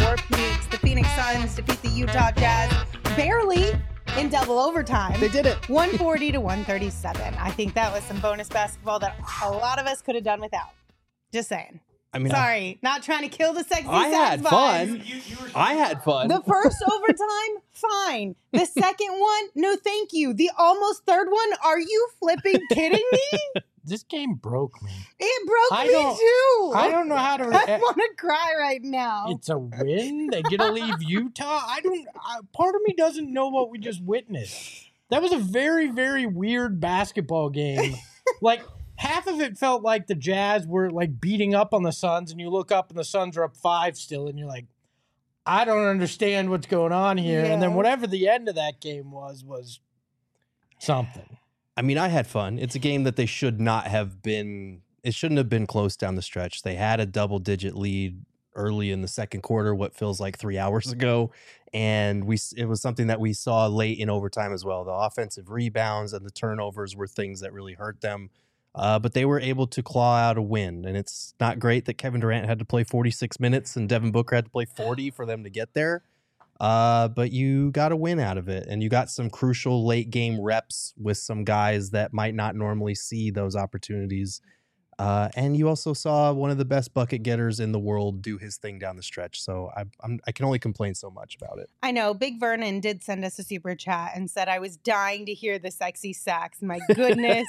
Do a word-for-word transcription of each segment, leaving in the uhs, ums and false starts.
your peaks. The Phoenix Suns defeat the Utah Jazz barely in double overtime. They did it. one forty to one thirty-seven. I think that was some bonus basketball that a lot of us could have done without. Just saying. I mean, Sorry, I, not trying to kill the sexy I had vibes. fun. You, you, you were I had fun. The first overtime, fine. The second one, no thank you. The almost third one, are you flipping kidding me? This game broke me. It broke I me don't- too. I don't know how to. I want to cry right now. It's a win. They get to leave Utah. I don't. I, part of me doesn't know what we just witnessed. That was a very, very weird basketball game. Like half of it felt like the Jazz were like beating up on the Suns, and you look up and the Suns are up five still, and you're like, I don't understand what's going on here. And then Yeah. whatever the end of that game was was something. I mean, I had fun. It's a game that they should not have been. It shouldn't have been close down the stretch. They had a double-digit lead early in the second quarter, what feels like three hours ago, and we it was something that we saw late in overtime as well. The offensive rebounds and the turnovers were things that really hurt them, uh, but they were able to claw out a win. And it's not great that Kevin Durant had to play forty-six minutes and Devin Booker had to play forty for them to get there. Uh, but you got a win out of it, and you got some crucial late game reps with some guys that might not normally see those opportunities. Uh, and you also saw one of the best bucket getters in the world do his thing down the stretch. So I, I'm, I can only complain so much about it. I know. Big Vernon did send us a super chat and said, I was dying to hear the sexy sax. My goodness.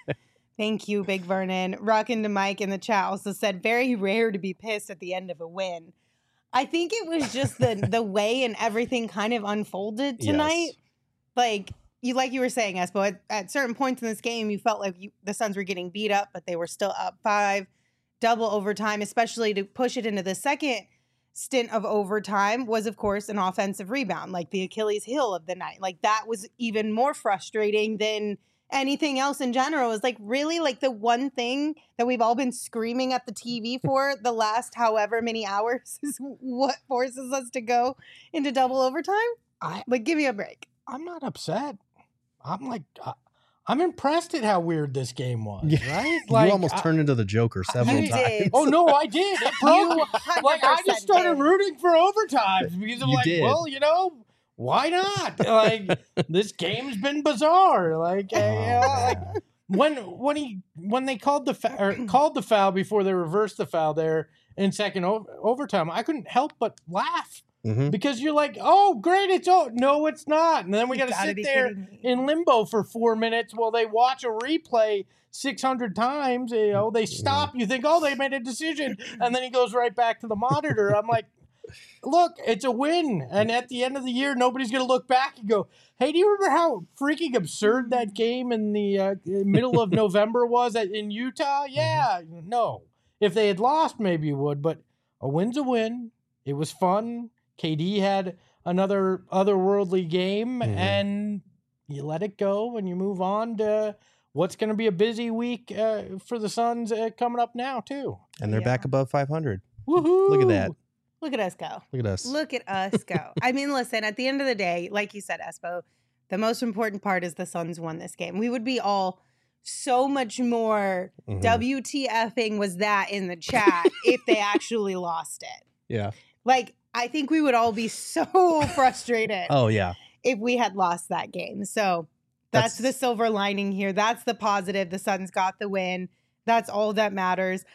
Thank you, Big Vernon. Rockin' to Mike in the chat also said, very rare to be pissed at the end of a win. I think it was just the the way and everything kind of unfolded tonight. Yes. Like you like you were saying, Espo, at, at certain points in this game, you felt like you, the Suns were getting beat up, but they were still up five, double overtime, especially to push it into the second stint of overtime was, of course, an offensive rebound, like the Achilles heel of the night. Like that was even more frustrating than anything else in general. Is like really like the one thing that we've all been screaming at the T V for the last however many hours is what forces us to go into double overtime. I Like, give me a break. I'm not upset. I'm like, I, I'm impressed at how weird this game was. Yeah. Right? you almost I- turned into the Joker several You times. did. Oh no, I did. It broke You me. one hundred Like I just percent started did. rooting for overtimes because I'm You like, did. well, you know, why not? Like this game's been bizarre. Like, uh, you know, like when when he when they called the fa- or called the foul before they reversed the foul there in second o- overtime, I couldn't help but laugh Mhm. because you're like, oh great, it's oh no, it's not, and then we You got to gotta sit be there kidding me. in limbo for four minutes while they watch a replay six hundred times. You know, they stop. You think, oh, they made a decision, and then he goes right back to the monitor. I'm like, look, it's a win, and at the end of the year, nobody's gonna look back and go, hey, do you remember how freaking absurd that game in the uh, middle of November was at, in Utah? Yeah, no. If they had lost, maybe you would, but a win's a win. It was fun. K D had another otherworldly game, Mhm. and you let it go and you move on to what's going to be a busy week uh, for the Suns uh, coming up now, too. And they're Yeah. back above five hundred. Woohoo! Look at that. Look at us go. Look at us. Look at us go. I mean, listen, at the end of the day, like you said, Espo, the most important part is the Suns won this game. We would be all so much more Mhm. WTFing was that in the chat if they actually lost it. Yeah. Like, I think we would all be so frustrated Oh, yeah. if we had lost that game. So that's, That's- the silver lining here. That's the positive. The Suns got the win. That's all that matters.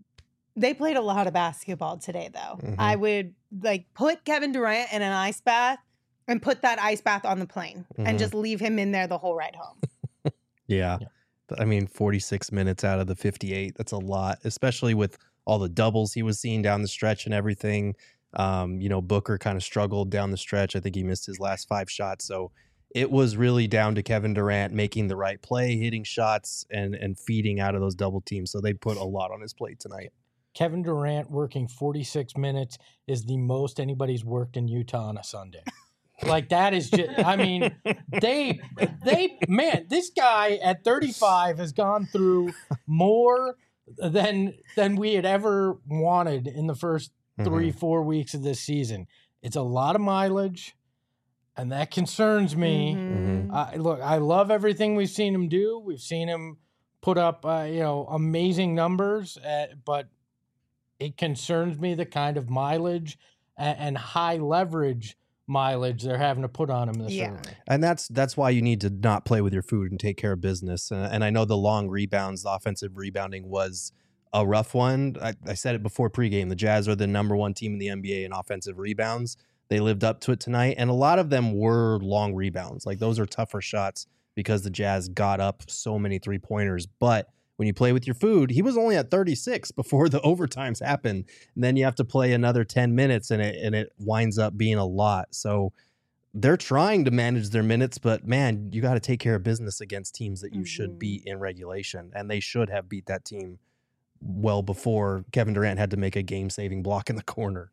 They played a lot of basketball today, though. Mhm. I would like put Kevin Durant in an ice bath and put that ice bath on the plane Mhm. and just leave him in there the whole ride home. Yeah. Yeah. I mean, forty-six minutes out of the fifty-eight, that's a lot, especially with all the doubles he was seeing down the stretch and everything. Um, you know, Booker kind of struggled down the stretch. I think he missed his last five shots. So it was really down to Kevin Durant making the right play, hitting shots, and and feeding out of those double teams. So they put a lot on his plate tonight. Kevin Durant working forty-six minutes is the most anybody's worked in Utah on a Sunday. Like that is just, I mean, they, they, man, this guy at thirty-five has gone through more than, than we had ever wanted in the first three, four weeks of this season. It's a lot of mileage, and that concerns me. Mhm. Uh, look, I love everything we've seen him do. We've seen him put up, uh, you know, amazing numbers, uh, but it concerns me the kind of mileage and, and high leverage mileage they're having to put on them this Yeah. early. And that's that's why you need to not play with your food and take care of business. And, and I know the long rebounds, the offensive rebounding was a rough one. I, I said it before pregame. The Jazz are the number one team in the N B A in offensive rebounds. They lived up to it tonight. And a lot of them were long rebounds. Like those are tougher shots because the Jazz got up so many three-pointers. But when you play with your food, he was only at thirty-six before the overtimes happen. And then you have to play another ten minutes and it and it winds up being a lot. So they're trying to manage their minutes, but man, you got to take care of business against teams that you mm-hmm. should beat in regulation. And they should have beat that team well before Kevin Durant had to make a game-saving block in the corner.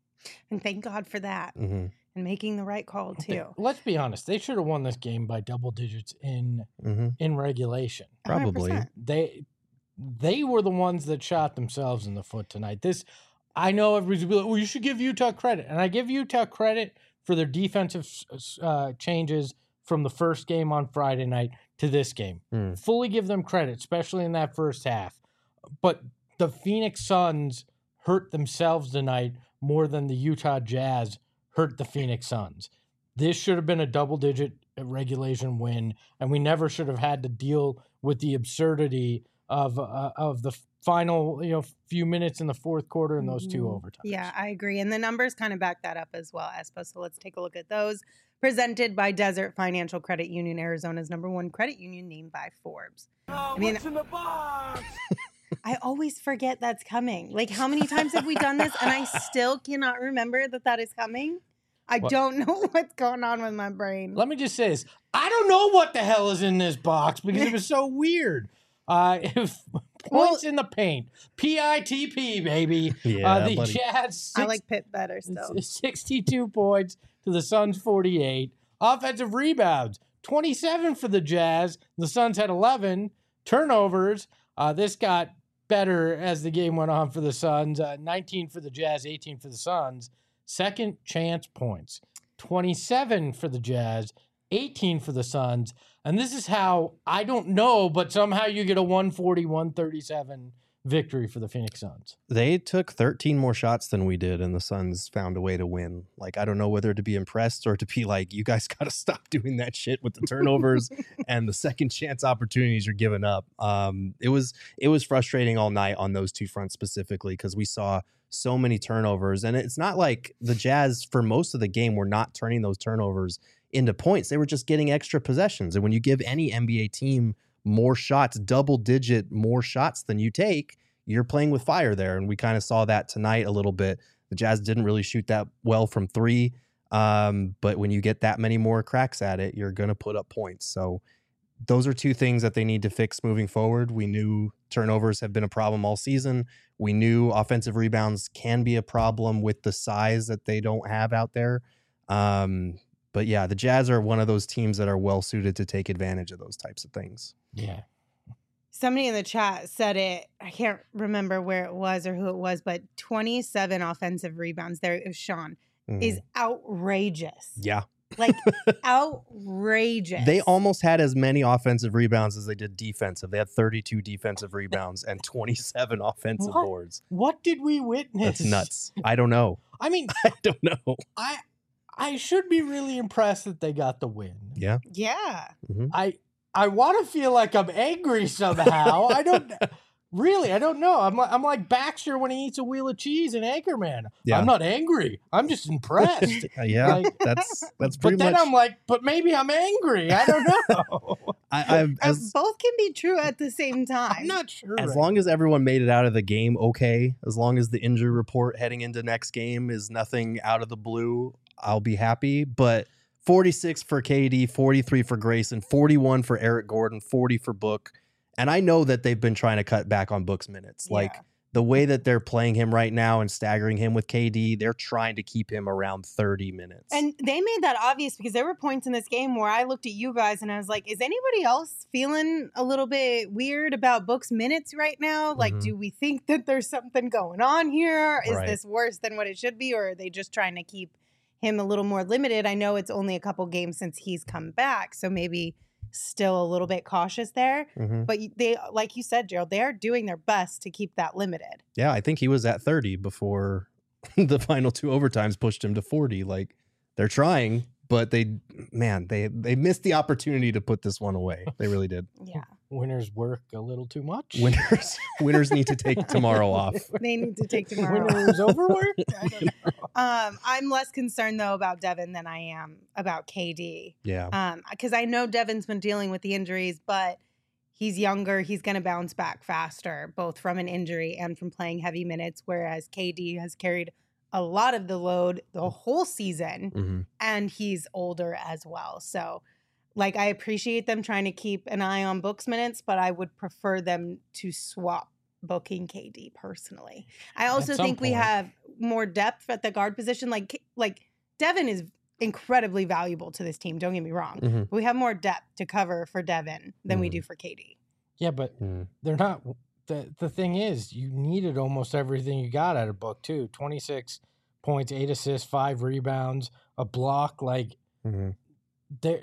And thank God for that. Mm-hmm. And making the right call too. Let's be honest; they should have won this game by double digits in mm-hmm. in regulation. Probably one hundred percent. they they were the ones that shot themselves in the foot tonight. This I know everybody's be like, "Well, you should give Utah credit," and I give Utah credit for their defensive uh, changes from the first game on Friday night to this game. Mm. Fully give them credit, especially in that first half. But the Phoenix Suns hurt themselves tonight more than the Utah Jazz hurt the Phoenix Suns. This should have been a double-digit regulation win, and we never should have had to deal with the absurdity of uh, of the final, you know, few minutes in the fourth quarter and those two overtimes. Yeah, I agree. And the numbers kind of back that up as well, Espo. So let's take a look at those. Presented by Desert Financial Credit Union, Arizona's number one credit union, named by Forbes. Oh, I mean, what's in the box? I always forget that's coming. Like, how many times have we done this? And I still cannot remember that that is coming. I What? don't know what's going on with my brain. Let me just say this. I don't know what the hell is in this box because it was so weird. Uh, if points Well- in the paint. P I T P, baby. Yeah, uh, the buddy. Jazz, six, I like Pitt better still. sixty-two points to the Suns, forty-eight. Offensive rebounds, twenty-seven for the Jazz. The Suns had eleven. Turnovers, uh, this got better as the game went on for the Suns. Uh, nineteen for the Jazz, eighteen for the Suns. Second chance points, twenty-seven for the Jazz, eighteen for the Suns. And this is how, I don't know, but somehow you get a one forty, one thirty-seven victory for the Phoenix Suns. They took thirteen more shots than we did, and the Suns found a way to win. Like, I don't know whether to be impressed or to be like, you guys got to stop doing that shit with the turnovers and the second chance opportunities you're giving up. Um, it was it was frustrating all night on those two fronts specifically because we saw so many turnovers. And it's not like the Jazz, for most of the game, were not turning those turnovers into points. They were just getting extra possessions. And when you give any N B A team more shots, double digit more shots than you take, you're playing with fire there. And we kind of saw that tonight a little bit. The Jazz didn't really shoot that well from three. Um, but when you get that many more cracks at it, you're going to put up points. So those are two things that they need to fix moving forward. We knew turnovers have been a problem all season. We knew offensive rebounds can be a problem with the size that they don't have out there. Um, but yeah, the Jazz are one of those teams that are well suited to take advantage of those types of things. Yeah. Somebody in the chat said it. I can't remember where it was or who it was, but twenty-seven offensive rebounds. There it was Sean. Mhm. Is outrageous. Yeah. Like outrageous. They almost had as many offensive rebounds as they did defensive. They had thirty-two defensive rebounds and twenty-seven offensive What? boards. What did we witness? That's nuts. I don't know. I mean, I don't know. I I should be really impressed that they got the win. Yeah. Yeah. I I want to feel like I'm angry somehow. I don't really. I don't know. I'm like I'm like Baxter when he eats a wheel of cheese in Anchorman. Yeah. I'm not angry. I'm just impressed. Uh, yeah. Like- that's that's but pretty then much. I'm like, but maybe I'm angry. I don't know. I, I've, Uh, as both can be true at the same time. I'm not sure. as right long as everyone made it out of the game okay, as long as the injury report heading into next game is nothing out of the blue, I'll be happy. But forty-six for K D, forty-three for Grayson, forty-one for Eric Gordon, forty for Book. And I know that they've been trying to cut back on Book's minutes. Like Yeah. the way that they're playing him right now and staggering him with K D, they're trying to keep him around thirty minutes. And they made that obvious because there were points in this game where I looked at you guys and I was like, is anybody else feeling a little bit weird about Book's minutes right now? Like, Mhm. do we think that there's something going on here? Is Right. this worse than what it should be? Or are they just trying to keep him a little more limited? I know it's only a couple games since he's come back, so maybe still a little bit cautious there. Mhm. But they, like you said, Gerald, they are doing their best to keep that limited. Yeah, I think he was at thirty before the final two overtimes pushed him to forty. Like they're trying, but they, man, they they missed the opportunity to put this one away. They really did. Yeah. Winners work a little too much. Winners, winners need to take tomorrow off. They need to take tomorrow. Winners overworked? I don't know. Um, I'm less concerned though about Devin than I am about K D. Yeah. Um, because I know Devin's been dealing with the injuries, but he's younger. He's going to bounce back faster, both from an injury and from playing heavy minutes. Whereas K D has carried a lot of the load the whole season, Mm-hmm. and he's older as well. So, like, I appreciate them trying to keep an eye on Book's minutes, but I would prefer them to swap booking K D personally. I also At some think we point. have more depth at the guard position. Like, like Devin is incredibly valuable to this team. Don't get me wrong. Mm-hmm. But we have more depth to cover for Devin than we Mhm. do for K D. Yeah, but Mm. they're not. The, the thing is, you needed almost everything you got out of Book, too. twenty-six points, eight assists, five rebounds, a block. Like, Mm-hmm. there.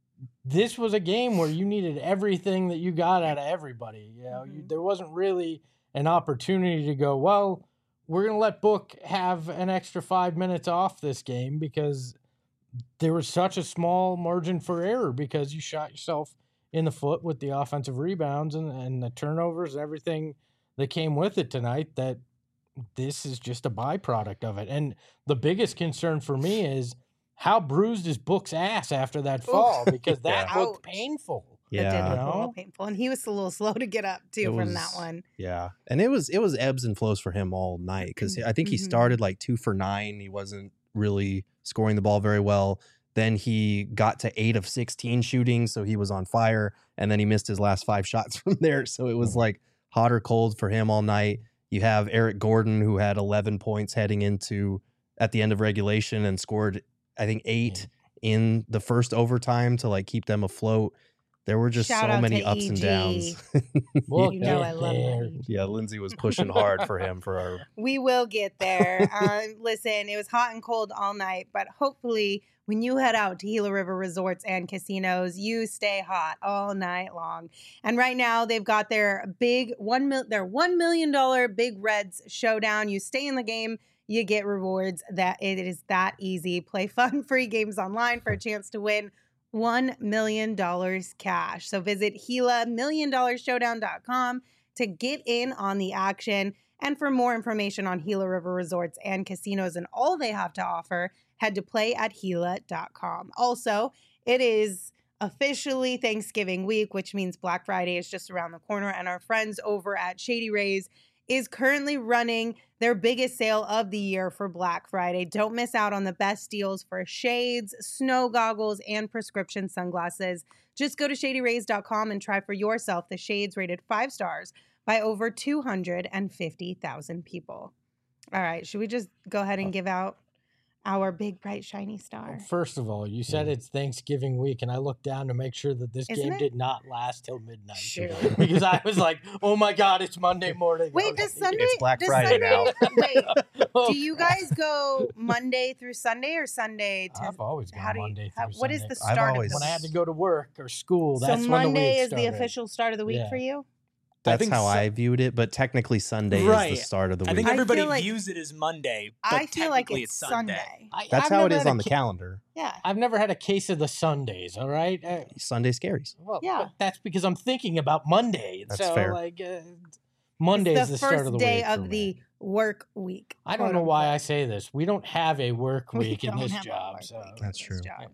This was a game where you needed everything that you got out of everybody. You know, you, Mhm. there wasn't really an opportunity to go, well, we're going to let Book have an extra five minutes off this game because there was such a small margin for error because you shot yourself in the foot with the offensive rebounds and, and the turnovers and everything that came with it tonight, that this is just a byproduct of it. And the biggest concern for me is how bruised is Book's ass after that fall, because that Yeah. looked Ouch. painful. It did Yeah. look a little No? painful. And he was a little slow to get up, too, It from that was- one. Yeah. And it was it was ebbs and flows for him all night because I think he Mhm. started like two for nine. He wasn't really scoring the ball very well. Then he got to eight of sixteen shooting, so he was on fire. And then he missed his last five shots from there. So it was like hot or cold for him all night. You have Eric Gordon, who had eleven points heading into at the end of regulation and scored, I think, eight in the first overtime to like keep them afloat. There were just Shout so out many to ups and E G. downs. We'll You know get I love there. that. E G. Yeah, Lindsay was pushing hard for him for our We will get there. um, listen, it was hot and cold all night, but hopefully when you head out to Gila River Resorts and Casinos, you stay hot all night long. And right now they've got their big one mil- their one million dollar Big Reds showdown. You stay in the game, you get rewards. That it is that easy. Play fun, free games online for a chance to win one million dollars cash. So visit Gila million dollar showdown dot com to get in on the action. And for more information on Gila River Resorts and Casinos and all they have to offer, head to play at Gila dot com. Also, it is officially Thanksgiving week, which means Black Friday is just around the corner. And our friends over at Shady Rays is currently running their biggest sale of the year for Black Friday. Don't miss out on the best deals for shades, snow goggles, and prescription sunglasses. Just go to shady rays dot com and try for yourself the shades rated five stars by over two hundred fifty thousand people. All right, should we just go ahead and give out our big, bright, shiny star? First of all, you said Yeah. it's Thanksgiving week, and I looked down to make sure that this Isn't game it? did not last till midnight. Shoot. Because I was like, oh my God, it's Monday morning. Wait, Okay. does Sunday? It's Black does Friday Sunday, Wait, Oh, do you guys go Monday through Sunday or Sunday to? I've always gone how do you- Monday how- through what is Sunday. the I've start always- of When the I had to go to work or school, So that's when Monday the week is the started. official start of the week Yeah. for you? That's think how so- I viewed it, but technically Sunday Right. is the start of the I week. think I everybody feel like- views it as Monday, but I feel like technically it's Sunday. I, That's I've how it never is had a on the ca- calendar. Yeah. I've never had a case of the Sundays, all right? Uh, Sunday scaries. well, Yeah. but that's because I'm thinking about Monday. That's so, fair. like, uh, Monday It's is the the first start of the day week. of for the me. work week. I don't quote know why I unquote. say this. We don't have a work We week in don't this have a job. work So. week in That's this true. job.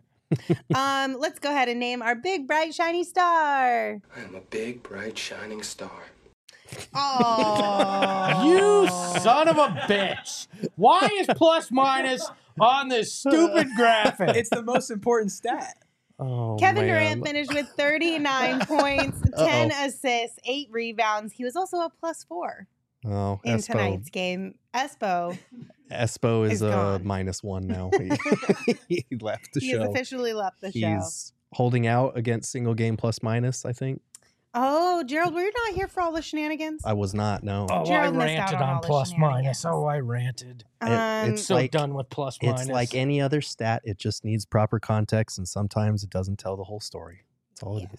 um, let's go ahead and name our big, bright, shiny star. I am a big, bright, shining star. Oh, You son of a bitch! Why is plus minus on this stupid graphic? It's the most important stat. Oh, Kevin man. Durant finished with thirty-nine points, ten assists, eight rebounds. He was also a plus four Oh, in Espo. tonight's game. Espo, Espo is is a gone. minus one now. he he left the he has show. officially left the show. He's holding out against single game plus minus, I think. Oh, Gerald, were you not here for all the shenanigans? I was not, no. Oh, Gerald I missed out ranted on all on the plus minus. shenanigans. Oh, I ranted. It- Um, it's So like done with plus minus. it's like any other stat. It just needs proper context, and sometimes it doesn't tell the whole story. That's all it is. yes.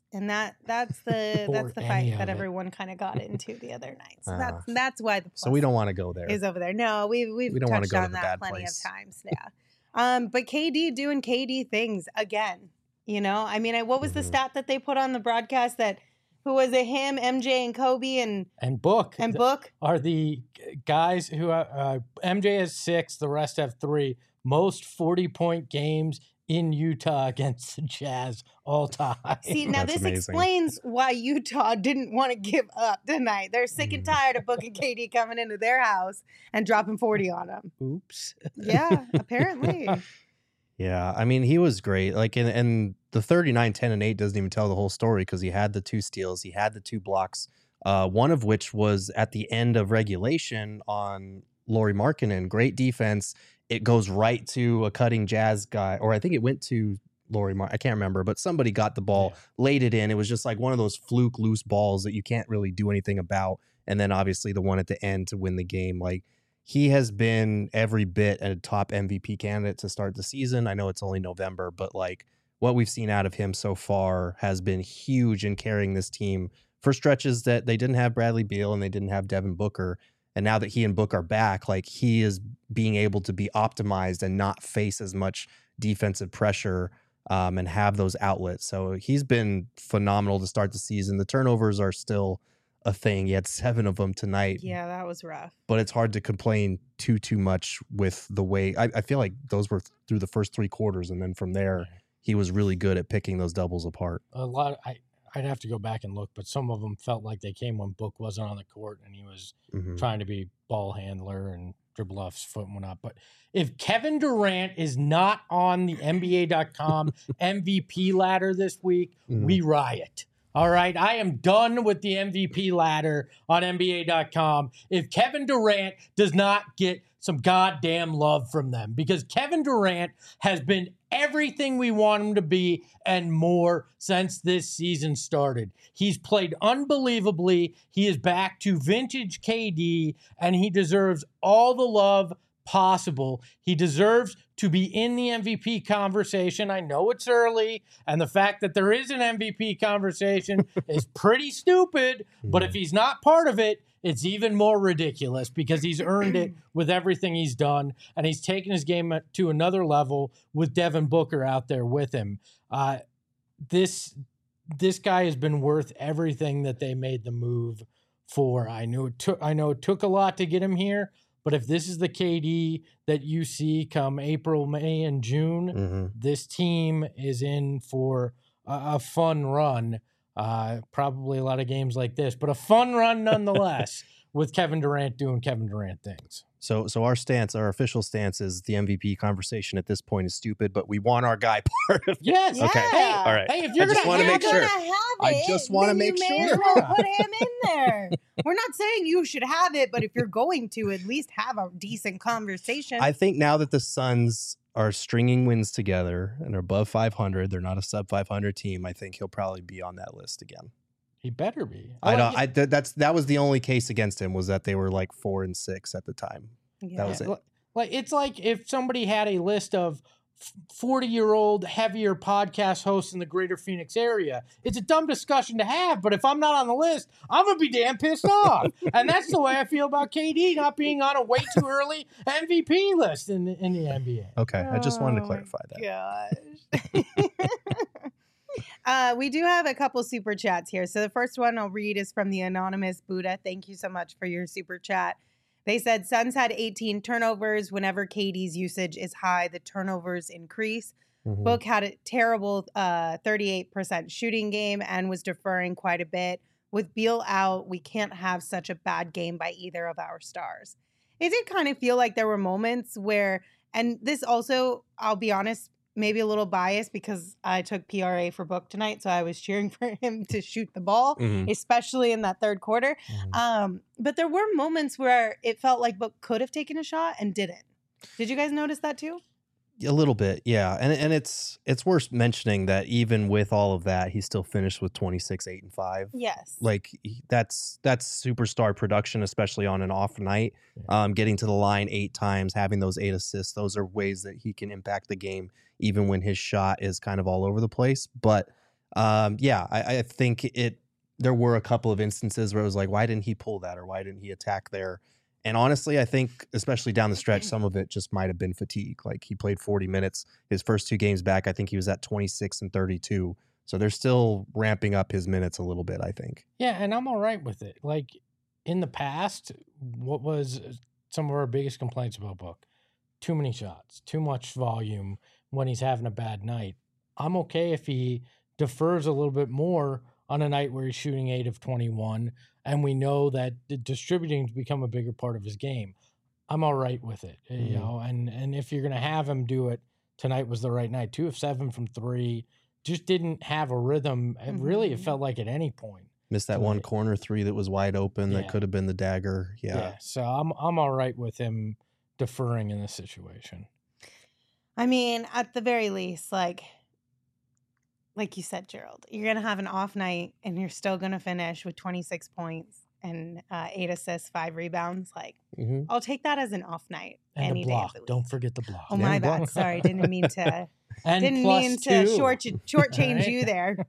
And that that's the Or that's the any fight that of it. everyone kind of got into the other night. So Ah. that's that's why the plus So we don't want to go there. is over there. No, we we've We don't wanna touched go to on the that bad plenty place. of times. Yeah. Um, but K D doing K D things again. You know, I mean, I, what was the Mhm. stat that they put on the broadcast that who was it? Him, M J, and Kobe, and And Book and Book. are the g- guys who uh, uh, M J has six, the rest have three. Most forty-point games in Utah against the Jazz all time. See, now That's this amazing. explains why Utah didn't want to give up tonight. They're sick and Mm. tired of Book and K D coming into their house and dropping forty on them. Oops. Yeah, apparently. Yeah, I mean, he was great. Like, and, and the thirty-nine, ten, and eight doesn't even tell the whole story because he had the two steals, he had the two blocks, uh, one of which was at the end of regulation on Lauri Markkanen. Great defense. It goes right to a cutting Jazz guy, or I think it went to Lauri Mark. I can't remember, but somebody got the ball, Yeah. laid it in. It was just like one of those fluke loose balls that you can't really do anything about. And then obviously the one at the end to win the game. Like, he has been every bit a top M V P candidate to start the season. I know it's only November, but like what we've seen out of him so far has been huge in carrying this team for stretches that they didn't have Bradley Beal and they didn't have Devin Booker. And now that he and Book are back, like he is being able to be optimized and not face as much defensive pressure um, and have those outlets. So he's been phenomenal to start the season. The turnovers are still a thing. He had seven of them tonight. Yeah, that was rough. But it's hard to complain too too much with the way I, I feel like those were through the first three quarters, and then from there he was really good at picking those doubles apart. A lot. I I'd have to go back and look, but some of them felt like they came when Book wasn't on the court and he was Mhm. trying to be ball handler and dribble off his foot and whatnot. But if Kevin Durant is not on the N B A dot com M V P ladder this week, Mhm. we riot. All right. I am done with the M V P ladder on N B A dot com if Kevin Durant does not get some goddamn love from them, because Kevin Durant has been everything we want him to be and more since this season started. He's played unbelievably. He is back to vintage K D, and he deserves all the love possible. He deserves to be in the M V P conversation. I know it's early, and the fact that there is an M V P conversation is pretty stupid, but if he's not part of it, it's even more ridiculous because he's earned it with everything he's done, and he's taken his game to another level with Devin Booker out there with him. Uh, this this guy has been worth everything that they made the move for. I knew it took I know it took a lot to get him here, but if this is the K D that you see come April, May, and June, Mhm. this team is in for a, a fun run. Uh, probably a lot of games like this, but a fun run nonetheless with Kevin Durant doing Kevin Durant things. So so our stance, our official stance is the M V P conversation at this point is stupid, but we want our guy part of it. Yes. Okay. Hey, All right. Hey, if you're I just gonna wanna have make You're sure. gonna have I it, just wanna then make you may sure. as well put him in there. We're not saying you should have it, but if you're going to, at least have a decent conversation. I think now that the Suns are stringing wins together and are above five hundred, they're not a sub five hundred team. I think he'll probably be on that list again. He better be. I like don't. it. I th- that's that was the only case against him was that they were like four and six at the time. Yeah. was it. Li- Like it's like if somebody had a list of forty-year-old heavier podcast hosts in the greater Phoenix area. It's a dumb discussion to have, but if I'm not on the list, I'm going to be damn pissed off. And that's the way I feel about K D not being on a way too early M V P list in, in the N B A. Okay, I just wanted to Oh, clarify that. Gosh. uh, we do have a couple super chats here. So the first one I'll read is from the anonymous Buddha. Thank you so much for your super chat. They said Suns had eighteen turnovers. Whenever K D's usage is high, the turnovers increase. Mhm. Book had a terrible uh, thirty-eight percent shooting game and was deferring quite a bit. With Beal out, we can't have such a bad game by either of our stars. It did kind of feel like there were moments where, and this also, I'll be honest, maybe a little biased because I took P R A for Book tonight, so I was cheering for him to shoot the ball, Mhm. especially in that third quarter. Mhm. Um, but there were moments where it felt like Book could have taken a shot and didn't. Did you guys notice that too? A little bit, yeah, and and it's it's worth mentioning that even with all of that, he still finished with twenty-six, eight, and five. Yes. Like he- that's that's superstar production, especially on an off night. Um, getting to the line eight times, having those eight assists, those are ways that he can impact the game, even when his shot is kind of all over the place. But Um, yeah, I, I think it. There were a couple of instances where it was like, why didn't he pull that, or why didn't he attack there? And honestly, I think, especially down the stretch, some of it just might have been fatigue. Like he played forty minutes his first two games back. I think he was at twenty-six and thirty-two. So they're still ramping up his minutes a little bit, I think. Yeah, and I'm all right with it. Like in the past, what was some of our biggest complaints about Book? Too many shots, too much volume when he's having a bad night. I'm okay if he defers a little bit more on a night where he's shooting eight of twenty-one, and we know that the distributing has become a bigger part of his game. I'm all right with it, mm-hmm. you know. And and if you're gonna have him do it, tonight was the right night. Two of seven from three, just didn't have a rhythm. Mm-hmm. Really, it felt like at any point missed that tonight. One corner three that was wide open yeah. that could have been the dagger. Yeah. yeah. So I'm I'm all right with him deferring in this situation. I mean, at the very least, like. Like you said, Gerald, you're going to have an off night and you're still going to finish with twenty-six points and uh, eight assists, five rebounds. Like, mm-hmm. I'll take that as an off night. And any a block. Day of the week. Don't forget the block. Oh, and my bad. Block. Sorry. Didn't mean to. and didn't mean to short, shortchange right? you there.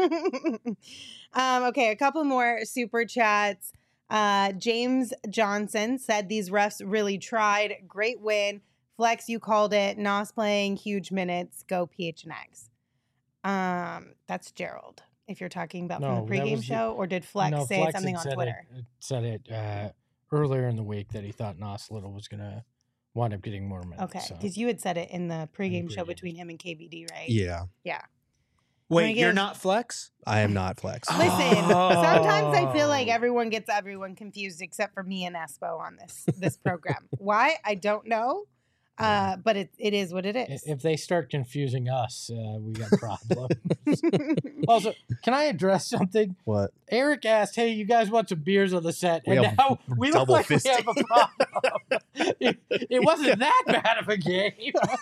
um, okay, a couple more super chats. Uh, James Johnson said these refs really tried. Great win. Flex, you called it. Nos playing huge minutes. Go P H N X. Um, that's Gerald. If you're talking about no, from the pregame show, or did Flex no, say Flex something on said Twitter? It, said it uh, earlier in the week that he thought Nos Little was gonna wind up getting more minutes. Okay, because so. you had said it in the pregame, in the show pregame. between him and K B D, right? Yeah. Yeah. Wait, you're not Flex? I am not Flex. Listen, oh. sometimes I feel like everyone gets everyone confused except for me and Espo on this this program. Why? I don't know. Uh, but it it is what it is. If they start confusing us, uh, we got problems. Also, can I address something? What? Eric asked, "Hey, you guys want some beers on the set?" And now we look like fisting. we have a problem. it, it wasn't that bad of a game.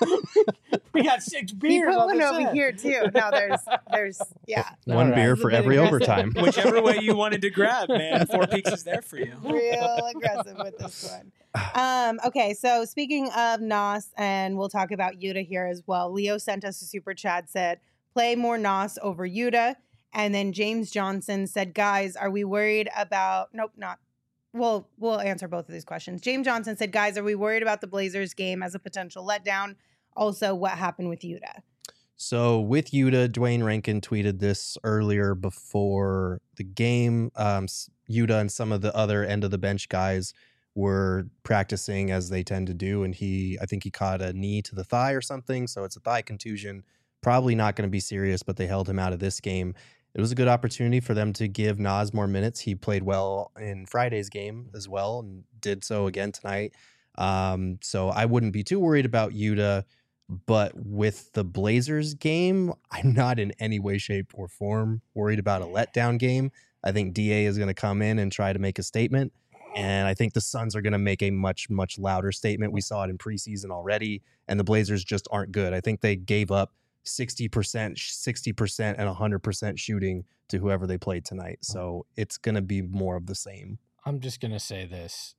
We got six beers. We put on one the over set. here too. No, there's there's yeah. One right. beer for every overtime. Whichever way you wanted to grab, man. Four Peaks is there for you. Real aggressive with this one. Um, okay, so speaking of Nos, and we'll talk about Yuta here as well. Leo sent us a super chat, said, play more Nos over Yuta. And then James Johnson said, guys, are we worried about, nope, not, well, we'll answer both of these questions. James Johnson said, guys, are we worried about the Blazers game as a potential letdown? Also, what happened with Yuta? So with Yuta, Dwayne Rankin tweeted this earlier before the game. Um, Yuta and some of the other end of the bench guys were practicing as they tend to do, and he I think he caught a knee to the thigh or something, so it's a thigh contusion, probably not going to be serious, but they held him out of this game. It was a good opportunity for them to give Nas more minutes. He played well in Friday's game as well and did so again tonight. Um, so I wouldn't be too worried about Yuta, but with the Blazers game, I'm not in any way, shape, or form worried about a letdown game. I think D A is going to come in and try to make a statement. And I think the Suns are going to make a much, much louder statement. We saw it in preseason already, and the Blazers just aren't good. I think they gave up sixty percent, sixty percent, and one hundred percent shooting to whoever they played tonight. So it's going to be more of the same. I'm just going to say this.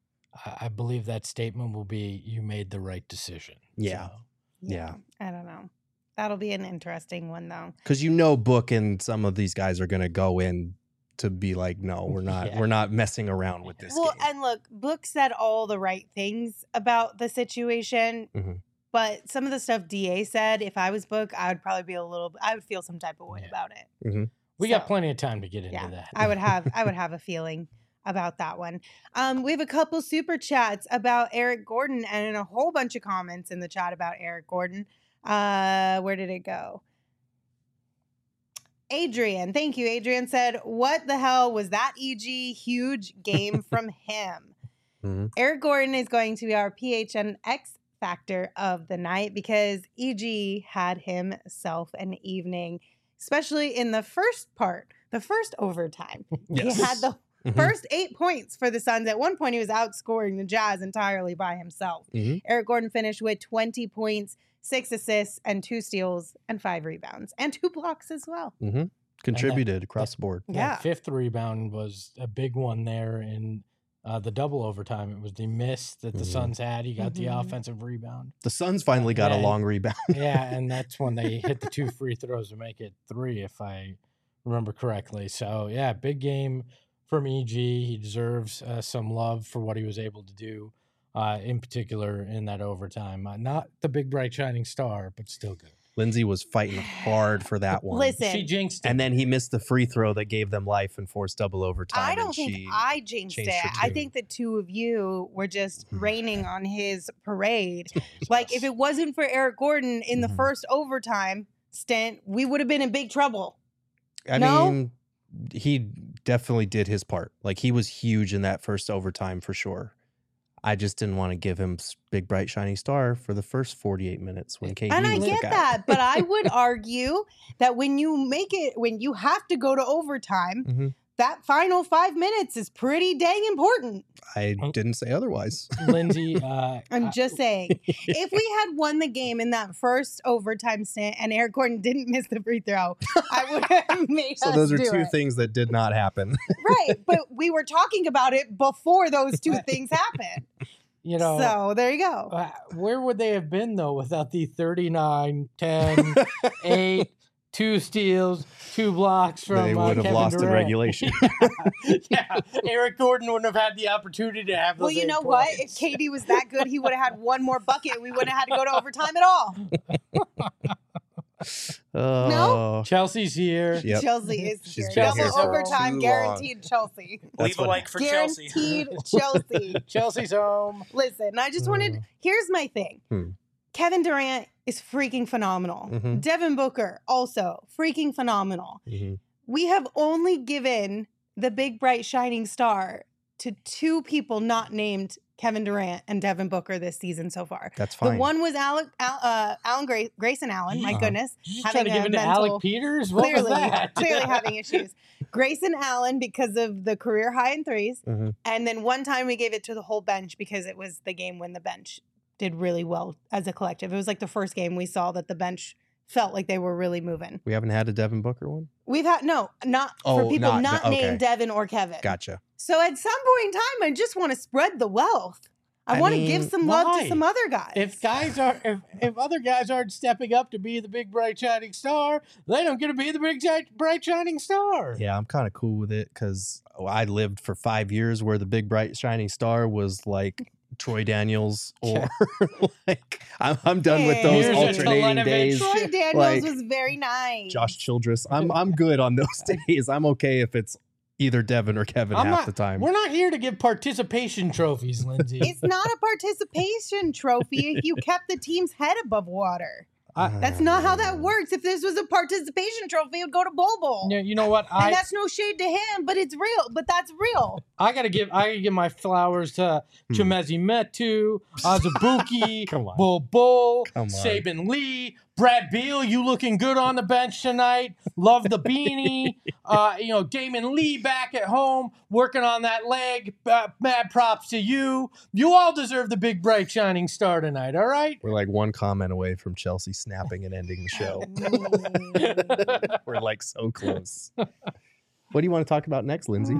I believe that statement will be, you made the right decision. Yeah. So. Yeah. I don't know. That'll be an interesting one, though. Because you know Book and some of these guys are going to go in to be like, no, we're not yeah. we're not messing around with this well, game. And look, Book said all the right things about the situation, mm-hmm. but some of the stuff D A said, if I was Book, I would probably be a little, I would feel some type of way yeah. about it. Mm-hmm. We so, got plenty of time to get into yeah, that. I would have, I would have a feeling about that one. Um, we have a couple super chats about Eric Gordon and a whole bunch of comments in the chat about Eric Gordon. Uh, where did it go? Adrian, thank you. Adrian said, what the hell was that, E G? Huge game from him. Mm-hmm. Eric Gordon is going to be our P H N X factor of the night because E G had himself an evening, especially in the first part, the first overtime. Yes. He had the mm-hmm. first eight points for the Suns. At one point, he was outscoring the Jazz entirely by himself. Mm-hmm. Eric Gordon finished with twenty points, six assists, and two steals, and five rebounds, and two blocks as well. Mm-hmm. Contributed that, across that, the board. That yeah. fifth rebound was a big one there in uh, the double overtime. It was the miss that the Mhm. Suns had. He got Mhm. the offensive rebound. The Suns finally got Yeah, a long rebound. Yeah, and that's when they hit the two free throws to make it three, if I remember correctly. So, yeah, big game from E G. He deserves uh, some love for what he was able to do, uh, in particular in that overtime. Uh, not the big, bright, shining star, but still good. Lindsay was fighting hard for that one. Listen, She jinxed it. And then he missed the free throw that gave them life and forced double overtime. I and don't think she, I jinxed changed it. her I tune. think the two of you were just raining on his parade. Like, if it wasn't for Eric Gordon in the Mhm. first overtime stint, we would have been in big trouble. I No? mean, he definitely did his part. Like, he was huge in that first overtime for sure. I just didn't want to give him s- big, bright, shining star for the first forty-eight minutes when K D And I was the get guy. that, but I would argue that when you make it, when you have to go to overtime, Mhm. that final five minutes is pretty dang important. I Oh. didn't say otherwise. Lindsay, uh, I'm I- just saying, if we had won the game in that first overtime stint and Eric Gordon didn't miss the free throw, I would have made So us those are do two it. things that did not happen. Right, but we were talking about it before those two things happened. you know, So there you go. uh, where would they have been, though, without the thirty-nine, ten, eight, two steals, two blocks from They uh, would have Kevin lost in Durant? regulation. Yeah, Eric Gordon wouldn't have had the opportunity to have those Well, you eight know what? points. If K D was that good, he would have had one more bucket. We wouldn't have had to go to overtime at all. Oh, Chelsea's here. Yep. Chelsea is She's here. been Double here for overtime, too long. guaranteed Chelsea. That's Leave a what- like for Chelsea. Guaranteed Chelsea. Chelsea's home. Listen, I just wanted, Uh. here's my thing. Hmm. Kevin Durant is freaking phenomenal. Mhm. Devin Booker, also freaking phenomenal. Mhm. We have only given the big, bright, shining star to two people not named Kevin Durant and Devin Booker this season so far. That's fine. The one was Alec, Al, uh, Alan Gra- Grayson Allen. My Uh-huh. goodness. You just Having trying to give a it to mental- Alec Peters? What Clearly, was that? clearly having issues. Grayson Allen because of the career high in threes. Mhm. And then one time we gave it to the whole bench because it was the game when the bench did really well as a collective. It was like the first game we saw that the bench felt like they were really moving. We haven't had a Devin Booker one? We've had, no, not for Oh, people not- not, okay. named Devin or Kevin. Gotcha. So at some point in time, I just want to spread the wealth. I, I want to mean, give some love why? to some other guys. If guys are, if, if other guys aren't stepping up to be the big bright shining star, they don't get to be the big gi- bright shining star. Yeah, I'm kind of cool with it because I lived for five years where the big, bright, shining star was like Troy Daniels or like I'm, I'm done with those Here's a alternating Telenovich. days. Troy Daniels like- was very nice. Josh Childress. I'm I'm good on those days. I'm okay if it's either Devin or Kevin I'm half not- the time. We're not here to give participation trophies, Lindsay. It's not a participation trophy if you kept the team's head above water. I- That's not how that works. If this was a participation trophy, it would go to Bobo. you, you know what? And I that's no shade to him, but it's real. But that's real. I gotta give I gotta give my flowers to Hmm. Chimezi Metu, Azubuki, Come on. Bull Bull, Come on. Saban Lee, Brad Beal. You looking good on the bench tonight? Love the beanie. uh, you know Damon Lee back at home working on that leg. Uh, mad props to you. You all deserve the big bright shining star tonight. All right. We're like one comment away from Chelsea snapping and ending the show. Mm. We're like so close. What do you want to talk about next, Lindsay?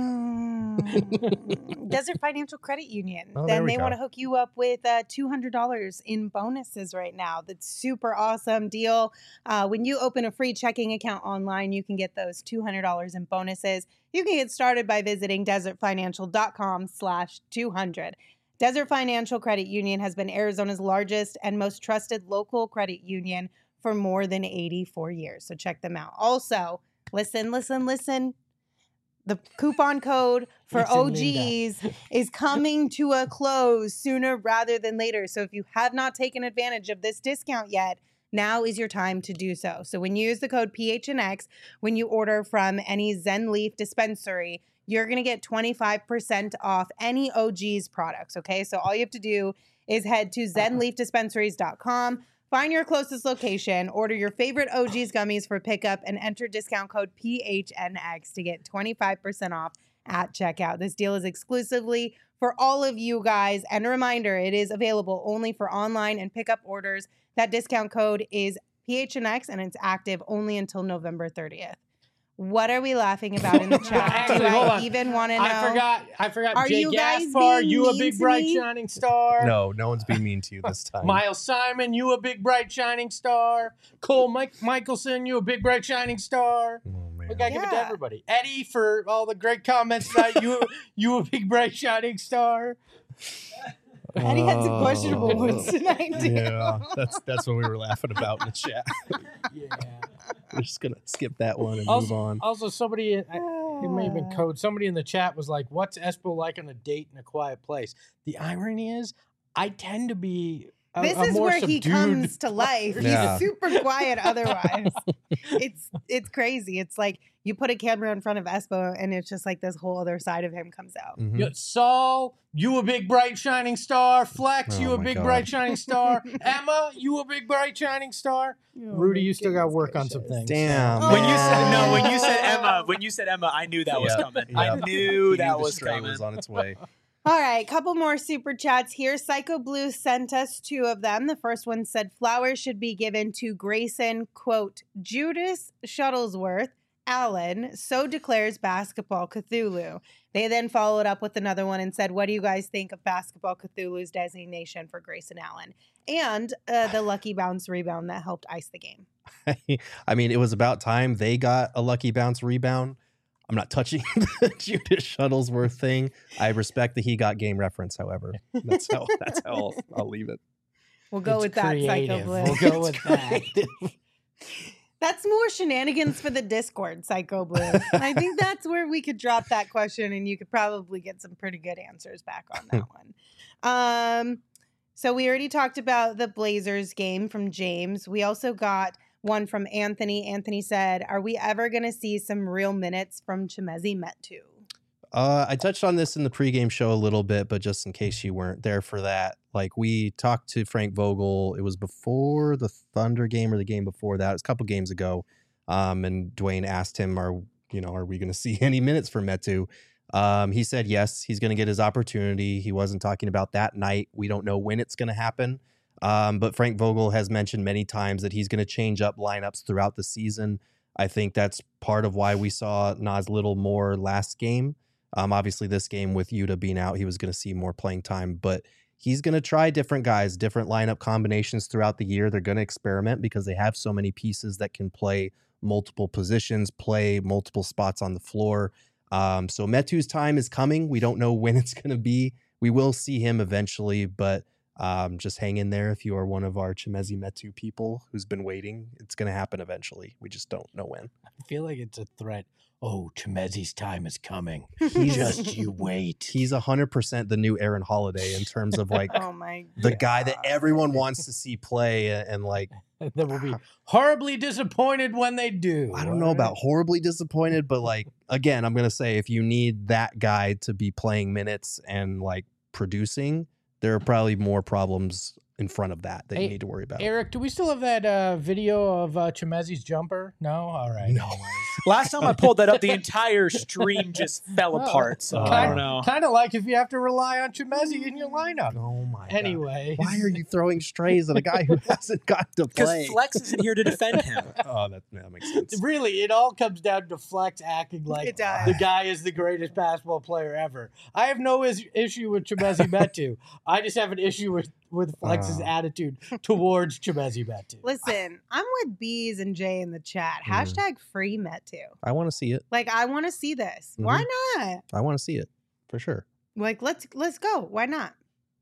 Mm. Desert Financial Credit Union. Oh, there then we they go. want to hook you up with uh, two hundred dollars in bonuses right now. That's super awesome deal. Uh, when you open a free checking account online, you can get those two hundred dollars in bonuses. You can get started by visiting desertfinancial.com slash 200. Desert Financial Credit Union has been Arizona's largest and most trusted local credit union for more than eighty-four years. So check them out. Also, listen, listen, listen. The coupon code for Listen, O Gs is coming to a close sooner rather than later. So if you have not taken advantage of this discount yet, now is your time to do so. So when you use the code P H N X, when you order from any Zen Leaf dispensary, you're going to get twenty-five percent off any O Gs products, okay? So all you have to do is head to zen leaf dispensaries dot com, find your closest location, order your favorite O Gs gummies for pickup, and enter discount code P H N X to get twenty-five percent off at checkout. This deal is exclusively for all of you guys. And a reminder, it is available only for online and pickup orders. That discount code is P H N X, and it's active only until November thirtieth. What are we laughing about in the chat? Actually, Do hold I on. even want to know? I forgot. I forgot. Are Jay you guys Gaspar, being you a mean big to bright me? shining star. No, no one's being mean to you this time. Miles Simon, you a big bright shining star. Cole Mike Michelson, you a big bright shining star. Oh, man. We gotta give it to Yeah. everybody. Eddie, for all the great comments tonight, you you a big bright shining star. Eddie had some questionable Oh. ones tonight, too. Yeah, that's that's what we were laughing about in the chat. Yeah. We're just gonna skip that one and Also, move on. also somebody, I- it may have been Ah. code. Somebody in the chat was like, "What's Espo like on a date in a quiet place?" The irony is, I tend to be. A, This a is more where he subdued comes to life. Yeah. He's super quiet otherwise. it's it's crazy. It's like you put a camera in front of Espo and it's just like this whole other side of him comes out. Mhm. Yeah, Saul, you a big bright shining star. Flex, Oh you a my big God. bright shining star. Emma, you a big bright shining star. Rudy, you still got to work on some things. Damn. When you said no, when you said Oh. Emma, when you said Emma, I knew that was Yep, coming. yep. I knew He that the was stray coming. was on its way. All right, couple more super chats here. Psycho Blue sent us two of them. The first one said flowers should be given to Grayson, quote, Judas Shuttlesworth Allen, so declares Basketball Cthulhu. They then followed up with another one and said, what do you guys think of Basketball Cthulhu's designation for Grayson Allen? And uh, the lucky bounce rebound that helped ice the game. I mean, it was about time they got a lucky bounce rebound. I'm not touching the Judas Shuttlesworth thing. I respect that he got game reference, however. That's how that's how I'll, I'll leave it. We'll go It's with that, Psycho creative. Blue. We'll go with that. That's more shenanigans for the Discord, Psycho Blue. And I think that's where we could drop that question and you could probably get some pretty good answers back on that one. Um, so we already talked about the Blazers game from James. We also got one from Anthony. Anthony said, are we ever going to see some real minutes from Chimezie Metu? Uh, I touched on this in the pregame show a little bit, but just in case you weren't there for that, like we talked to Frank Vogel. It was before the Thunder game or the game before that. It was a couple games ago. Um, and Dwayne asked him, "Are you know, are we going to see any minutes for Metu?" Um, he said yes, he's going to get his opportunity. He wasn't talking about that night. We don't know when it's going to happen. Um, but Frank Vogel has mentioned many times that he's going to change up lineups throughout the season. I think that's part of why we saw Nas Little more last game. Um, obviously, this game with Yuta being out, he was going to see more playing time, but he's going to try different guys, different lineup combinations throughout the year. They're going to experiment because they have so many pieces that can play multiple positions, play multiple spots on the floor. Um, so Metu's time is coming. We don't know when it's going to be. We will see him eventually, but um, just hang in there if you are one of our Chimezie Metu people who's been waiting. It's going to happen eventually. We just don't know when. I feel like it's a threat. Oh, Chimezie's time is coming. He's Just you wait. He's one hundred percent the new Aaron Holiday in terms of like Oh my the God. guy that everyone wants to see play and, and like That will be horribly disappointed when they do. I don't know about horribly disappointed, but like again, I'm gonna say if you need that guy to be playing minutes and like producing, there are probably more problems in front of that that Hey, you need to worry about. Eric, do we still have that uh, video of uh, Chimezie's jumper? No? All right. No. Last time I pulled that up, the entire stream just fell Oh. apart. So I Kind, don't know. kind of like if you have to rely on Chimezie in your lineup. Oh my god. Anyway. Why are you throwing strays at a guy who hasn't got to play? Because Flex isn't here to defend him. Oh, that, that makes sense. Really, it all comes down to Flex acting like It does. the guy is the greatest basketball player ever. I have no is- issue with Chimezie Metu. I just have an issue with, with Flex's Uh. attitude towards Chimezie Metu. Listen, I'm with Bees and Jay in the chat. Mm. Hashtag free Metu. I want to see it. Like, I want to see this. Why not? I want to see it for sure. Like, let's let's go. Why not?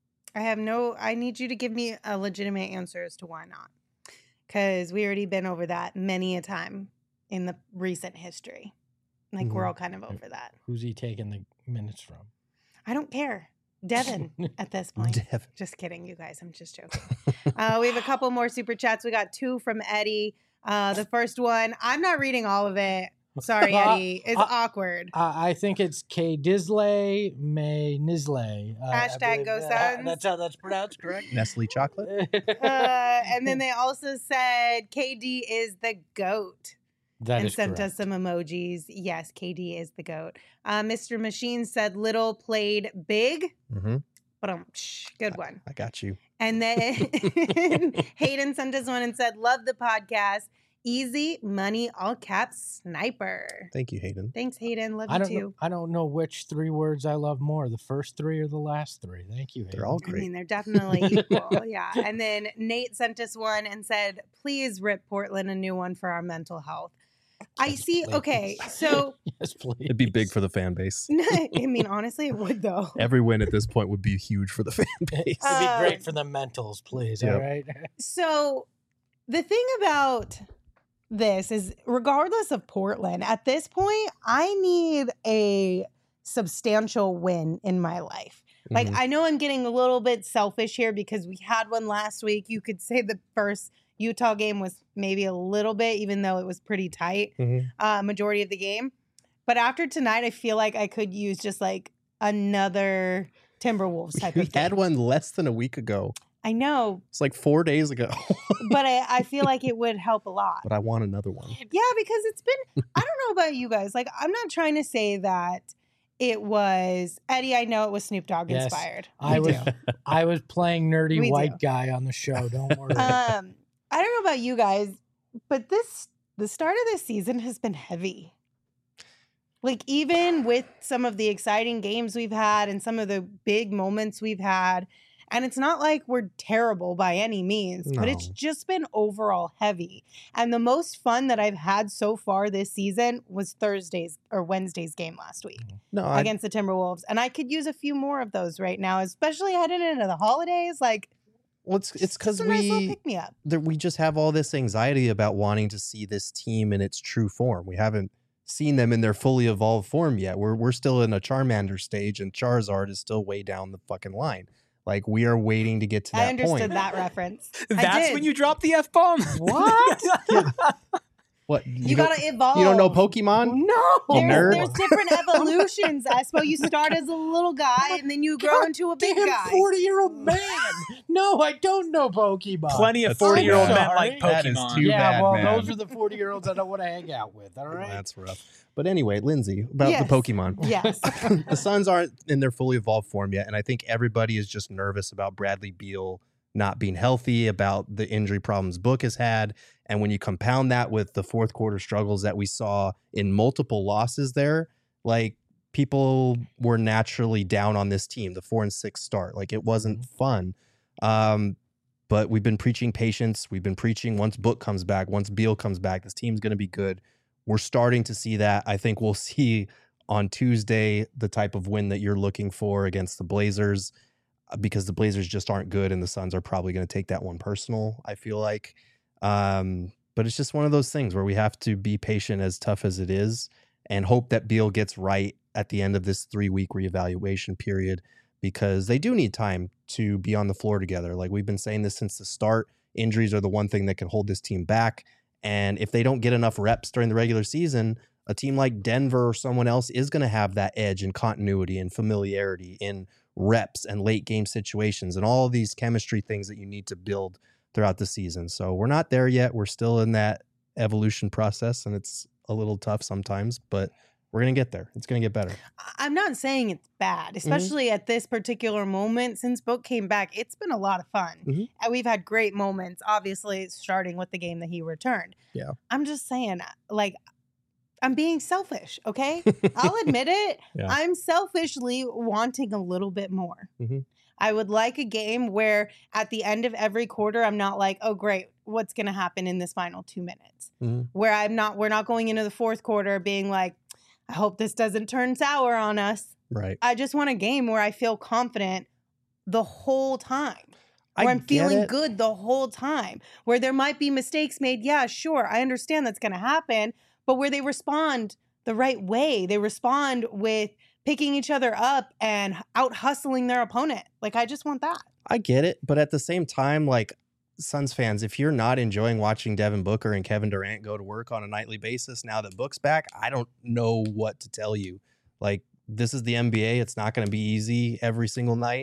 I have no. I need you to give me a legitimate answer as to why not, because we already been over that many a time in the recent history. Like, we're Mhm. all kind of over that. Who's he taking the minutes from? I don't care. Devin at this point. Devin. Just kidding, you guys. I'm just joking. uh, we have a couple more super chats. We got two from Eddie. Uh, the first one, I'm not reading all of it. Sorry, Uh, Eddie. It's uh, awkward. Uh, I think it's K. Disley May Nisley. Uh, I Hashtag believe go that- Suns. That's how that's pronounced, correct? Nestle chocolate. Uh, and then they also said K D is the GOAT. That and is sent correct. us some emojis. Yes, K D is the GOAT. Uh, Mister Machine said Little played big. Mm-hmm. But um, psh, good one. I got you. And then Hayden sent us one and said, love the podcast. Easy money, all caps, sniper. Thank you, Hayden. Thanks, Hayden. Love I you don't too. know, I don't know which three words I love more, the first three or the last three. Thank you, They're Hayden. all I great. mean, they're definitely equal. Yeah. And then Nate sent us one and said, please rip Portland a new one for our mental health. I Yes, see. please. Okay. So, Yes, please. It'd be big for the fan base. I mean, honestly, it would though. Every win at this point would be huge for the fan base. It'd be Um, great for the mentals, please. Yep. All right. So, the thing about this is, regardless of Portland, at this point, I need a substantial win in my life. Like, Mhm. I know I'm getting a little bit selfish here because we had one last week. You could say the first Utah game was maybe a little bit, even though it was pretty tight, Mhm. uh, majority of the game. But after tonight, I feel like I could use just like another Timberwolves type We of thing. had one less than a week ago. I know, It's like four days ago. but I, I feel like it would help a lot. But I want another one. Yeah, because it's been, I don't know about you guys. Like, I'm not trying to say that it was, Eddie, I know it was Snoop Dogg Yes, inspired. I We was do. I was playing nerdy We white do. guy on the show. Don't worry. Um, I don't know about you guys, but this, the start of this season has been heavy. Like, even with some of the exciting games we've had and some of the big moments we've had, and it's not like we're terrible by any means, but it's No. just been overall heavy. And the most fun that I've had so far this season was Thursday's or Wednesday's game last week No, I, against the Timberwolves. And I could use a few more of those right now, especially heading into the holidays. Like, well, it's it's because a nice little we pick me up. there, we just have all this anxiety about wanting to see this team in its true form. We haven't seen them in their fully evolved form yet. We're we're still in a Charmander stage, and Charizard is still way down the fucking line. Like, we are waiting to get to that I understood point. that reference. I That's did. when you drop the F bomb. What? What You, don't- gotta evolve. you don't know Pokemon? No. You There's, nerd. there's different evolutions, Espo. You start as a little guy and then you grow God into a big Damn guy. forty-year-old man. No, I don't know Pokemon. Plenty of That's too forty-year-old bad. men like That is Pokemon. too yeah, bad, well, man. those are the forty-year-olds I don't want to hang out with. All right. That's rough. But anyway, Lindsay, about Yes. the Pokemon. Yes. The Suns aren't in their fully evolved form yet, and I think everybody is just nervous about Bradley Beal not being healthy, about the injury problems Book has had, and when you compound that with the fourth quarter struggles that we saw in multiple losses there, like, people were naturally down on this team, the four and six start. Like, it wasn't fun. Um, but we've been preaching patience. We've been preaching once Book comes back, once Beal comes back, this team's going to be good. We're starting to see that. I think we'll see on Tuesday the type of win that you're looking for against the Blazers, uh, because the Blazers just aren't good and the Suns are probably going to take that one personal, I feel like. Um, but it's just one of those things where we have to be patient, as tough as it is, and hope that Beal gets right at the end of this three-week reevaluation period, because they do need time to be on the floor together. Like, we've been saying this since the start. Injuries are the one thing that can hold this team back. And if they don't get enough reps during the regular season, a team like Denver or someone else is going to have that edge in continuity and familiarity in reps and late game situations and all of these chemistry things that you need to build throughout the season. So we're not there yet. We're still in that evolution process, and it's a little tough sometimes, but we're going to get there. It's going to get better. I'm not saying it's bad, especially at this particular moment. Since Book came back, it's been a lot of fun. Mhm. And we've had great moments, obviously, starting with the game that he returned. Yeah. I'm just saying, like, I'm being selfish, okay? I'll admit it. Yeah. I'm selfishly wanting a little bit more. Mhm. I would like a game where at the end of every quarter, I'm not like, oh, great, what's going to happen in this final two minutes? Mhm. Where I'm not, we're not going into the fourth quarter being like, I hope this doesn't turn sour on us. Right. I just want a game where I feel confident the whole time. I Where I'm get feeling it. good the whole time. Where there might be mistakes made. Yeah, sure. I understand that's going to happen. But where they respond the right way. They respond with picking each other up and out hustling their opponent. Like, I just want that. I get it, but at the same time, like, Suns fans, if you're not enjoying watching Devin Booker and Kevin Durant go to work on a nightly basis now that Book's back, I don't know what to tell you. Like, this is the N B A. It's not going to be easy every single night.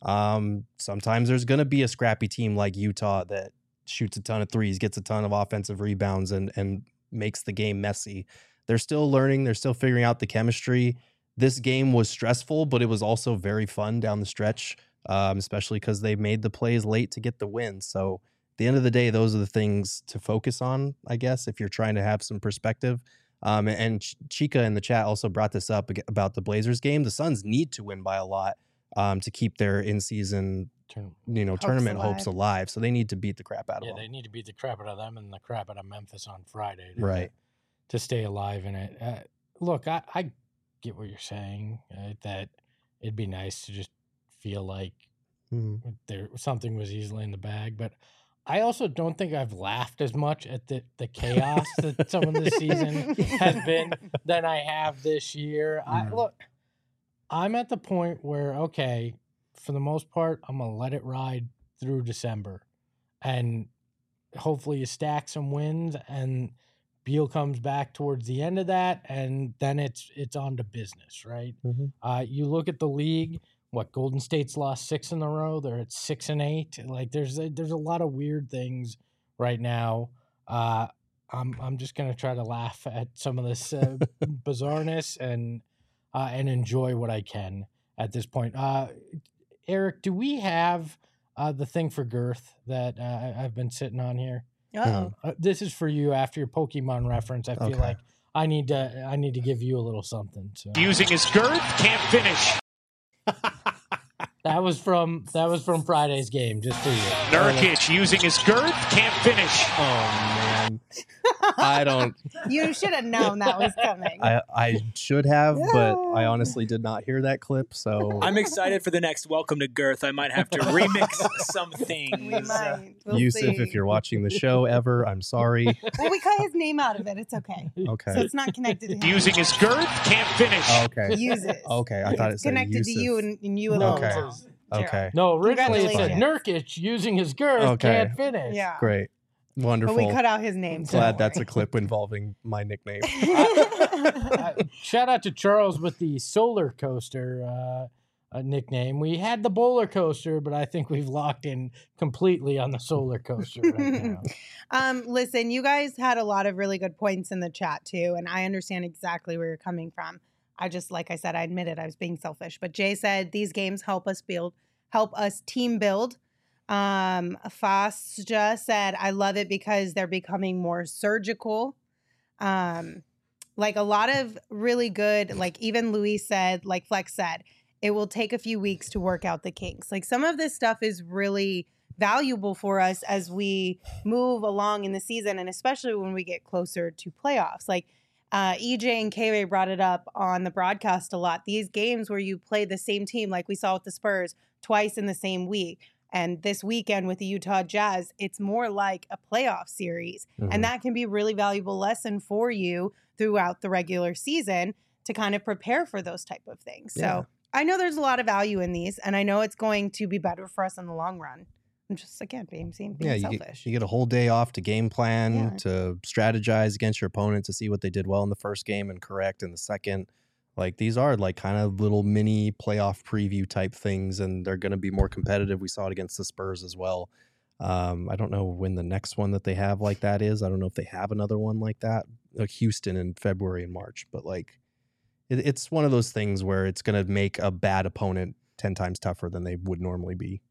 Um, sometimes there's going to be a scrappy team like Utah that shoots a ton of threes, gets a ton of offensive rebounds, and and makes the game messy. They're still learning. They're still figuring out the chemistry. This game was stressful, but it was also very fun down the stretch, um, especially because they made the plays late to get the win. So the end of the day, those are the things to focus on, I guess, if you're trying to have some perspective. Um, and Ch- Chica in the chat also brought this up ag- about the Blazers game. The Suns need to win by a lot um, to keep their in-season, Turn- you know, Hopes tournament alive. hopes alive. So they need to beat the crap out of Yeah, them. they need to beat the crap out of them and the crap out of Memphis on Friday. To, Right. To stay alive in it. Uh, look, I, I get what you're saying, uh, that it'd be nice to just feel like Mhm. there something was easily in the bag, but I also don't think I've laughed as much at the, the chaos that some of this season has been than I have this year. I Mhm. look, I'm at the point where, okay, for the most part, I'm gonna let it ride through December, and hopefully you stack some wins, and Beal comes back towards the end of that, and then it's it's on to business, right? Mhm. Uh, you look at the league. What, Golden State's lost six in a row? They're at six and eight. Like there's a, there's a lot of weird things right now. Uh, I'm I'm just gonna try to laugh at some of this uh, bizarreness and uh, and enjoy what I can at this point. Uh, Eric, do we have uh, the thing for girth that uh, I- I've been sitting on here? Uh-oh. Uh, this is for you after your Pokemon reference. I feel Okay. like I need to I need to give you a little something. So. Using his girth, can't finish. That was from that was from Friday's game, just for you. Nurkic using his girth, can't finish. Oh, man. I don't. You should have known that was coming. I, I should have, but I honestly did not hear that clip. So I'm excited for the next Welcome to Girth. I might have to remix some we things. might. We'll Yusuf, see. if you're watching the show ever, I'm sorry. Well, we cut his name out of it. It's okay. Okay. So it's not connected to him. Using his girth, can't finish. Oh, okay. Uses. Okay. I thought it It's said connected to Yusuf. you and, and you No, alone. Okay. now, Gerald. Okay. No, originally it said Congratulations. Nurkic using his girth Okay. can't finish. Yeah. Great. Wonderful. But we cut out his name. so Glad don't that's a worry. clip involving my nickname. Uh, shout out to Charles with the solar coaster uh, uh, nickname. We had the bowler coaster, but I think we've locked in completely on the solar coaster right now. Um, listen, you guys had a lot of really good points in the chat too, and I understand exactly where you're coming from. I just, like I said, I admitted I was being selfish. But Jay said these games help us build, help us team build. Um, Fasja said, I love it because they're becoming more surgical. Um, like a lot of really good, like even Luis said, like Flex said, it will take a few weeks to work out the kinks. Like some of this stuff is really valuable for us as we move along in the season, and especially when we get closer to playoffs. Like uh, E J and K-Ray brought it up on the broadcast a lot. These games where you play the same team, like we saw with the Spurs, twice in the same week. And this weekend with the Utah Jazz, it's more like a playoff series. Mhm. And that can be a really valuable lesson for you throughout the regular season to kind of prepare for those type of things. Yeah. So I know there's a lot of value in these, and I know it's going to be better for us in the long run. I'm just, again, being, being Yeah, you selfish. get, you get a whole day off to game plan, Yeah. to strategize against your opponent, to see what they did well in the first game and correct in the second. Like these are like kind of little mini playoff preview type things, and they're going to be more competitive. We saw it against the Spurs as well. Um, I don't know when the next one that they have like that is. I don't know if they have another one like that, like Houston in February and March. But like, it, it's one of those things where it's going to make a bad opponent ten times tougher than they would normally be.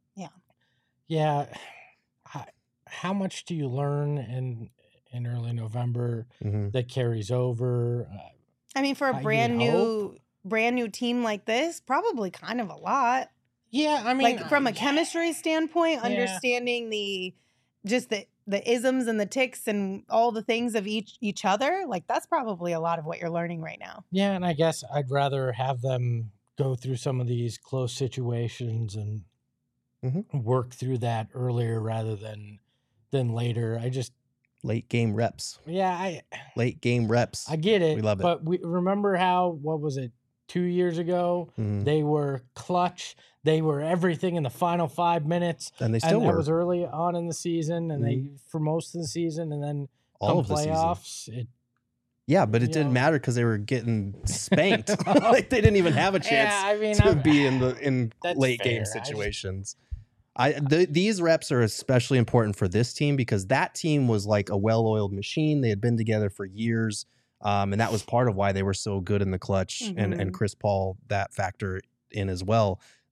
Yeah. How, how much do you learn in in early November Mhm. that carries over? Uh, I mean, for Uh, a you brand would new, brand new team like this, probably kind of a lot. yeah, I mean, like from a I- chemistry standpoint, Yeah. understanding the just the the isms and the ticks and all the things of each each other, like that's probably a lot of what you're learning right now. Yeah, and I guess I'd rather have them go through some of these close situations and Mhm. work through that earlier rather than than later. I just Late game reps, yeah, I late game reps. I get it. We love it. But we remember how what was it two years ago? Mhm. They were clutch. They were everything in the final five minutes. And they still and were that was early on in the season, and they for most of the season, and then all come of the season. playoffs. It, Yeah, but it you didn't know. matter because they were getting spanked. Like they didn't even have a chance yeah, I mean, to I'm- be in the in That's late fair. game I just- situations. I, th- these reps are especially important for this team because that team was like a well-oiled machine. They had been together for years, um, and that was part of why they were so good in the clutch. And and Mhm. Chris Paul that factor in as well.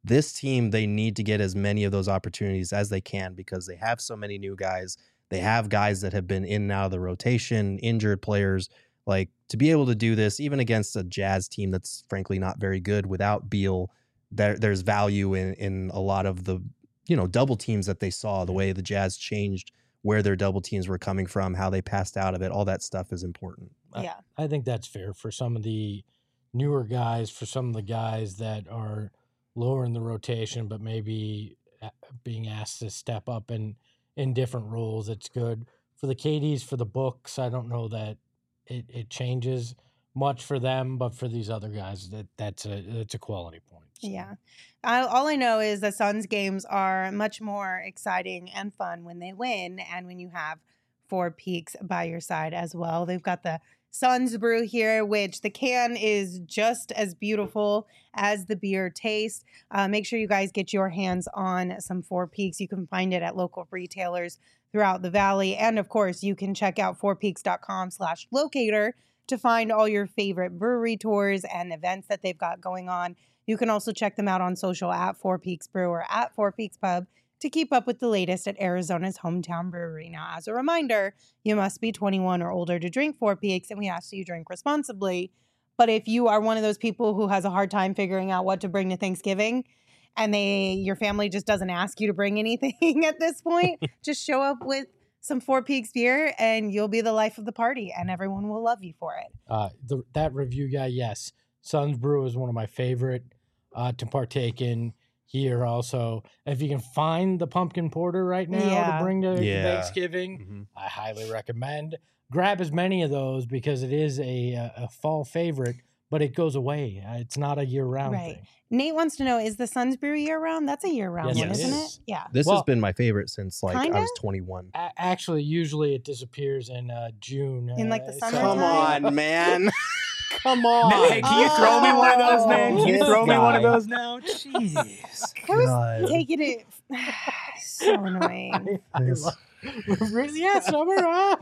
this team, they need to get as many of those opportunities as they can because they have so many new guys. They have guys that have been in and out of the rotation, injured players. Like, to be able to do this, even against a Jazz team that's frankly not very good without Beal, there, there's value in, in a lot of the, you know, double teams that they saw, the way the Jazz changed where their double teams were coming from, how they passed out of it. All that stuff is important. Yeah. I, I think that's fair for some of the newer guys, for some of the guys that are lower in the rotation, but maybe being asked to step up in, in different roles. It's good for the K Ds, for the Books. I don't know that it, it changes much for them, but for these other guys, that that's a, that's a quality point. So. Yeah. I, all I know is the Suns games are much more exciting and fun when they win and when you have Four Peaks by your side as well. They've got the Suns Brew here, which the can is just as beautiful as the beer tastes. Uh, make sure you guys get your hands on some Four Peaks. You can find it at local retailers throughout the valley. And of course, you can check out fourpeaks.com slash locator to find all your favorite brewery tours and events that they've got going on. You can also check them out on social at Four Peaks Brew or at Four Peaks Pub to keep up with the latest at Arizona's hometown brewery. Now, as a reminder, you must be twenty-one or older to drink Four Peaks, and we ask that you drink responsibly. But if you are one of those people who has a hard time figuring out what to bring to Thanksgiving, and they your family just doesn't ask you to bring anything at this point, just show up with some Four Peaks beer, and you'll be the life of the party, and everyone will love you for it. Uh, the, that review guy, yes. Suns Brew is one of my favorite uh, to partake in here also. If you can find the pumpkin porter right now Yeah. to bring to Yeah. Thanksgiving, Mm-hmm. I highly recommend. Grab as many of those because it is a, a, a fall favorite, but it goes away. Uh, It's not a year-round Right. thing. Nate wants to know, is the Suns Brew year-round? That's a year-round Yes, one, it isn't is. it? Yeah. This Well- has been my favorite since like Kinda? I was twenty-one. A- actually, usually it disappears in uh, June. In, like, the uh, summertime? Come on, man. Come on. Hey, can you throw me one of those, man? Can you This throw me one of guy. those now? Jeez. I was God. taking it. So annoying. This- Yeah, summer, huh?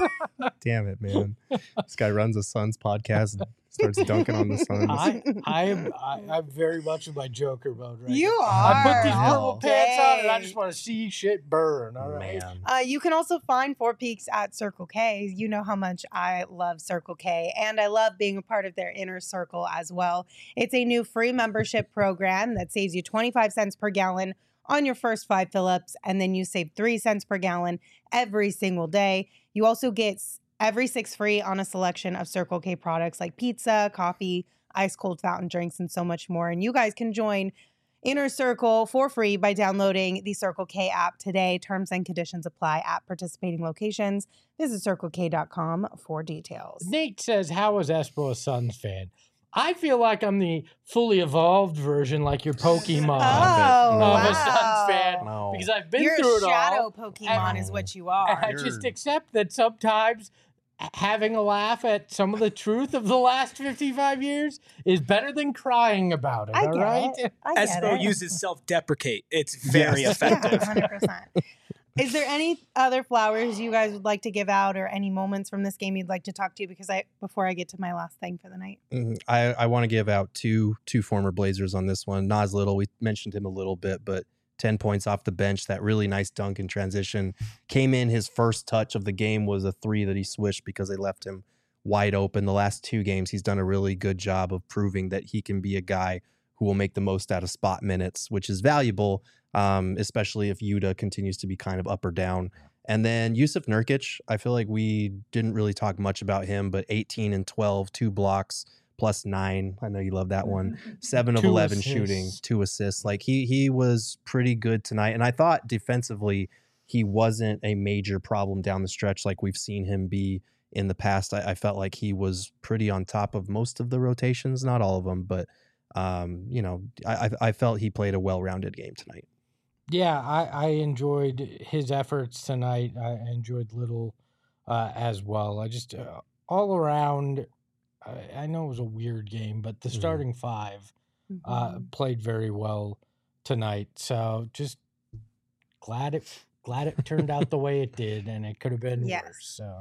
Damn it, man. This guy runs a Suns podcast and starts dunking on the Suns. I, I am I, I'm very much in my Joker mode right You now. are. I put these Hell. purple pants on and I Dang. just want to see shit burn. All right. Man. Uh, you can also find Four Peaks at Circle K. You know how much I love Circle K, and I love being a part of their inner circle as well. It's a new free membership program that saves you twenty-five cents per gallon on your first five fill-ups, and then you save three cents per gallon every single day. You also get s- every six free on a selection of Circle K products like pizza, coffee, ice cold fountain drinks, and so much more. And you guys can join Inner Circle for free by downloading the Circle K app today. Terms and conditions apply at participating locations. Visit circle k dot com for details. Nate says, how is Espo a Suns fan? I feel like I'm the fully evolved version, like your Pokemon. Oh, of wow. a Suns fan. No. Because I've been You're through a it shadow all. Pokemon And- is what you And are. I just accept that sometimes having a laugh at some of the truth of the last fifty-five years is better than crying about it. I all get right? it. I get Espo it. uses self-deprecate. It's very Yes. Yeah, effective. one hundred percent. Is there any other flowers you guys would like to give out or any moments from this game you'd like to talk to? Because I before I get to my last thing for the night. Mhm. I, I want to give out two two former Blazers on this one. Nas Little, we mentioned him a little bit, but ten points off the bench. That really nice dunk in transition. Came in, his first touch of the game was a three that he swished because they left him wide open. The last two games, he's done a really good job of proving that he can be a guy who will make the most out of spot minutes, which is valuable, um, especially if Yuta continues to be kind of up or down. And then Yusuf Nurkic, I feel like we didn't really talk much about him, but eighteen and twelve, two blocks, plus nine. I know you love that one. Seven of Two eleven assists. shooting, two assists. Like he he was pretty good tonight. And I thought defensively he wasn't a major problem down the stretch like we've seen him be in the past. I, I felt like he was pretty on top of most of the rotations, not all of them, but um, you know, I I I felt he played a well-rounded game tonight. Yeah, I, I enjoyed his efforts tonight. I enjoyed Little uh, as well. I just, uh, all around, I, I know it was a weird game, but the Mhm. starting five uh, Mhm. played very well tonight. So just glad it glad it turned out the way it did, and it could have been Yes. worse. So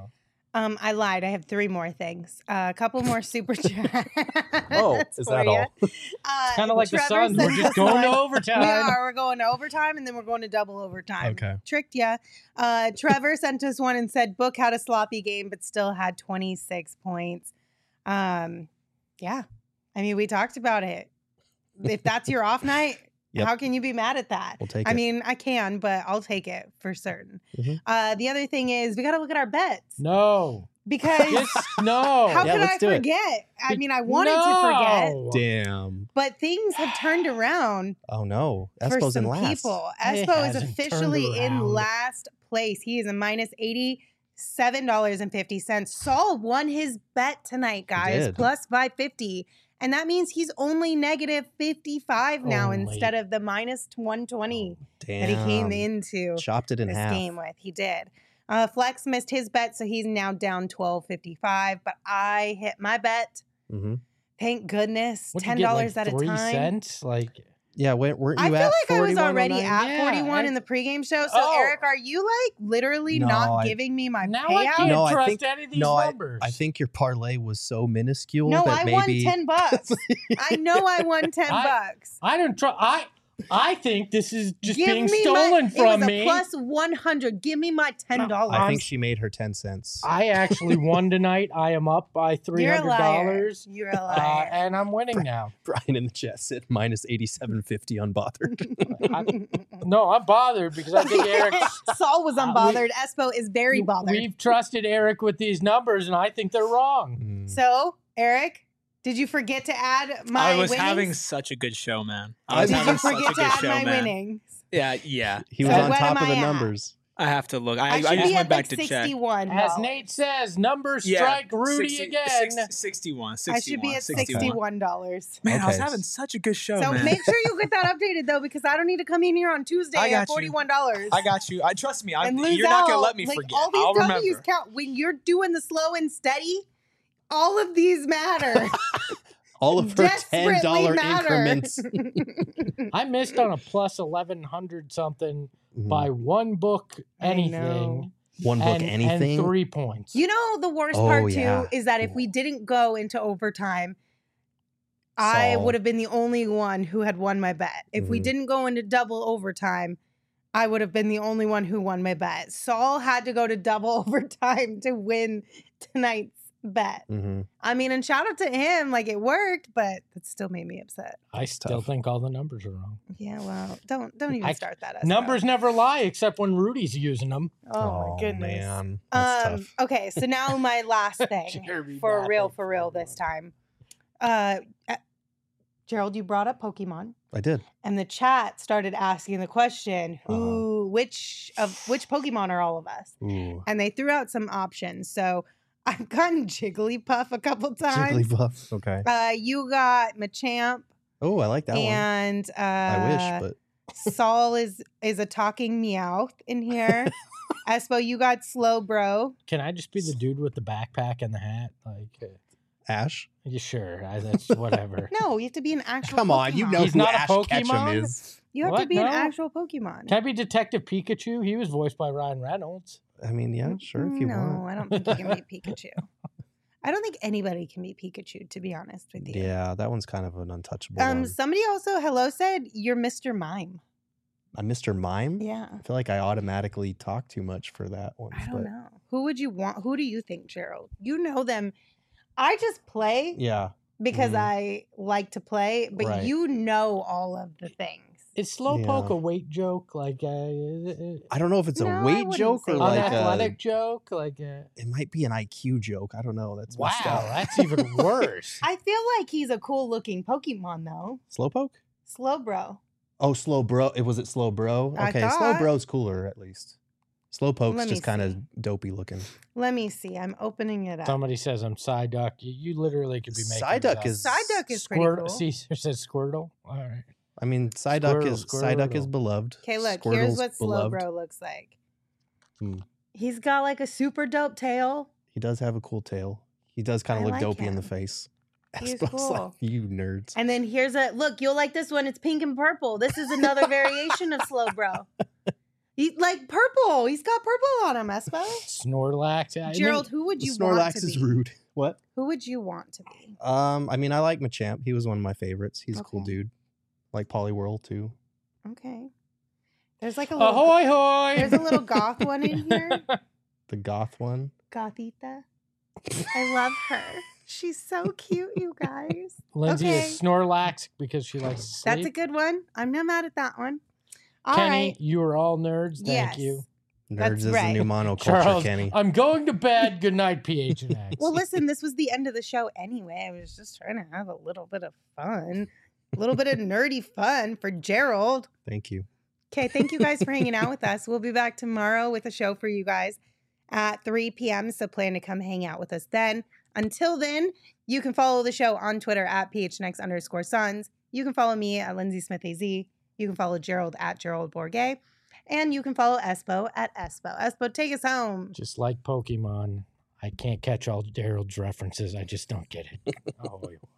Um, I lied. I have three more things. Uh, a couple more super chats. Oh, is that for ya. all? Uh, Kind of like the Trevor Suns. We're sent just us going to one. overtime. We are. We're going to overtime, and then we're going to double overtime. Okay. Tricked ya. Uh, Trevor sent us one and said, Book had a sloppy game, but still had twenty-six points. Um, yeah. I mean, we talked about it. If that's your off night, Yep. how can you be mad at that? We'll take I it. mean, I can, but I'll take it for certain. Mhm. Uh, the other thing is we got to look at our bets No. because Just no. how Yeah, could let's I do it. forget? I mean, I wanted to forget, No. Damn. but things have turned around Oh no. for Espo's some in last. people. It Espo is hasn't turned officially in around. last place. He is a minus eighty-seven dollars and fifty cents. Saul won his bet tonight, guys, did. plus five fifty. And that means he's only negative fifty-five now Only. instead of the minus one twenty Damn. that he came into Chopped it in this half. game with. He did. Uh, Flex missed his bet, so he's now down twelve fifty-five. But I hit my bet. Mm-hmm. Thank goodness. What'd you ten get, dollars like, at a three time. cents? Like, Yeah, weren't, weren't you I feel at like I was already forty-one oh nine? at Yeah, forty-one I- in the pregame show. So, Oh. Eric, are you like literally No, not I- giving me my now I payout? can't No, I trust think- any of these No, I, numbers. I think your parlay was so minuscule No, that I won maybe ten bucks. I know I won ten I- bucks. I don't trust. I I think this is just Give being me stolen my, from it was me. a plus one hundred. Give me my ten dollars. I think she made her ten cents. I actually won tonight. I am up by three You're a hundred liar. dollars. You're a Uh, liar. and I'm winning now. Brian in the chat said minus eighty-seven fifty unbothered. No, I'm bothered because I think Eric. Saul was unbothered. Espo is very bothered. We've trusted Eric with these numbers, and I think they're wrong. Mm. So, Eric, did you forget to add my I was winnings? having such a good show, man. I I was Did having you such a forget to good add show, my man. winnings? Yeah, yeah. He was So on what top am of the I at? numbers. I have to look. I, I I, should just be went at back like to check. sixty-one. As dollars. Nate says, numbers Yeah, strike Rudy sixty, again. six- sixty-one, sixty-one. I should be at sixty-one. sixty-one dollars. Man, I was Okay. having such a good show, So man. make sure you get that updated though, because I don't need to come in here on Tuesday I got at you. forty-one dollars. I got you. I trust me. I, and lose you're not gonna out. let me Like, forget. All these I'll W's remember. count when you're doing the slow and steady. All of these matter. All of her ten Desperately dollar matter. increments. I missed on a plus eleven hundred something Mhm. by one book I anything. know. One book, and, anything. And three points. You know the worst Oh, part too yeah. is that if we didn't go into overtime, I Saul. would have been the only one who had won my bet. If we Mhm. didn't go into double overtime, I would have been the only one who won my bet. Saul had to go to double overtime to win tonight's bet. hmm I mean, and shout out to him, like it worked, but it still made me upset. I still tough. think all the numbers are wrong. Yeah, well, don't don't even I- start that. Espo. Numbers never lie except when Rudy's using them. Oh, my goodness. man, that's Um, tough. okay, so now my last thing Jeremy for Baffin. real, for real this time. Uh, uh, Gerald, you brought up Pokemon, I did. and the chat started asking the question, "Who, which of which Pokemon are all of us?" Ooh, And they threw out some options. So I've gotten Jigglypuff a couple times. Jigglypuff. Okay. Uh, you got Machamp, Oh, I like that one. and uh, I wish, but Saul is is a talking Meowth in here. Espo, you got Slowbro. Can I just be the dude with the backpack and the hat? Like, uh, Ash. yeah, sure. I, that's whatever. No, you have to be an actual. Come on, you Pokemon. know He's who not a Ash Pokemon? Ketchum is. You have to What? be an No? actual Pokemon. Can I be Detective Pikachu? He was voiced by Ryan Reynolds. I mean, yeah, sure, if you no, want. I don't think you can be Pikachu. I don't think anybody can be Pikachu, to be honest with you. Yeah, that one's kind of an untouchable Um. one. Somebody also hello said you're Mister Mime. I'm Mister Mime. Yeah. I feel like I automatically talk too much for that one. I don't but know. Who would you want? Who do you think, Gerald? You know them. I just play Yeah, because Mhm. I like to play, but Right. you know all of the things. Is Slowpoke Yeah. a weight joke? Like, uh, uh, I don't know if it's No, a I weight wouldn't joke say or that. an like a, athletic joke? Like, uh, it might be an I Q joke. I don't know. That's wow, messed up. that's even worse. I feel like he's a cool looking Pokemon though. Slowpoke. Slowbro. Oh, slow bro. It was it slow bro. I Okay, slow thought. bro's cooler at least. Slowpoke's Let me just kind of see. dopey looking. Let me see. I'm opening it up. Somebody says I'm Psyduck. You, you literally could be making Psyduck this is up. Psyduck is pretty Squirt- cool. Caesar says Squirtle. All right. I mean, Psyduck Squirtle, is Psyduck is Squirtle. beloved. Okay, look. here's Squirtle's what beloved. Slowbro looks like. Hmm. He's got like a super dope tail. He does have a cool tail. He does kind I of look like dopey in the him. face. He's Espo's like, cool. you nerds. And then here's a look. You'll like this one. It's pink and purple. This is another variation of Slowbro. He like purple. He's got purple on him, Espo. Snorlax. I Gerald, mean, who would you want Snorlax to is be? rude. What? Who would you want to be? Um, I mean, I like Machamp. He was one of my favorites. He's a cool Okay. dude. Like Poliwhirl too. Okay. There's like a little ahoy hoy. there's a little goth one in here. The goth one. Gothita. I love her. She's so cute, you guys. Lindsay Okay. is Snorlax because she likes to sleep. That's a good one. I'm not mad at that one. All right. Kenny, you are all nerds. Thank Yes. you. Nerds That's is the right. new monoculture, Charles, Kenny. I'm going to bed. Good night, P H N X. Well, listen, this was the end of the show anyway. I was just trying to have a little bit of fun, a little bit of nerdy fun for Gerald. Thank you. Okay, thank you guys for hanging out with us. We'll be back tomorrow with a show for you guys at three p.m. So plan to come hang out with us then. Until then, you can follow the show on Twitter at P H N X underscore Sons. You can follow me at Lindsay Smith A Z. You can follow Gerald at Gerald Bourget. And you can follow Espo at Espo. Espo, take us home. Just like Pokemon, I can't catch all Gerald's references. I just don't get it. Ahoy.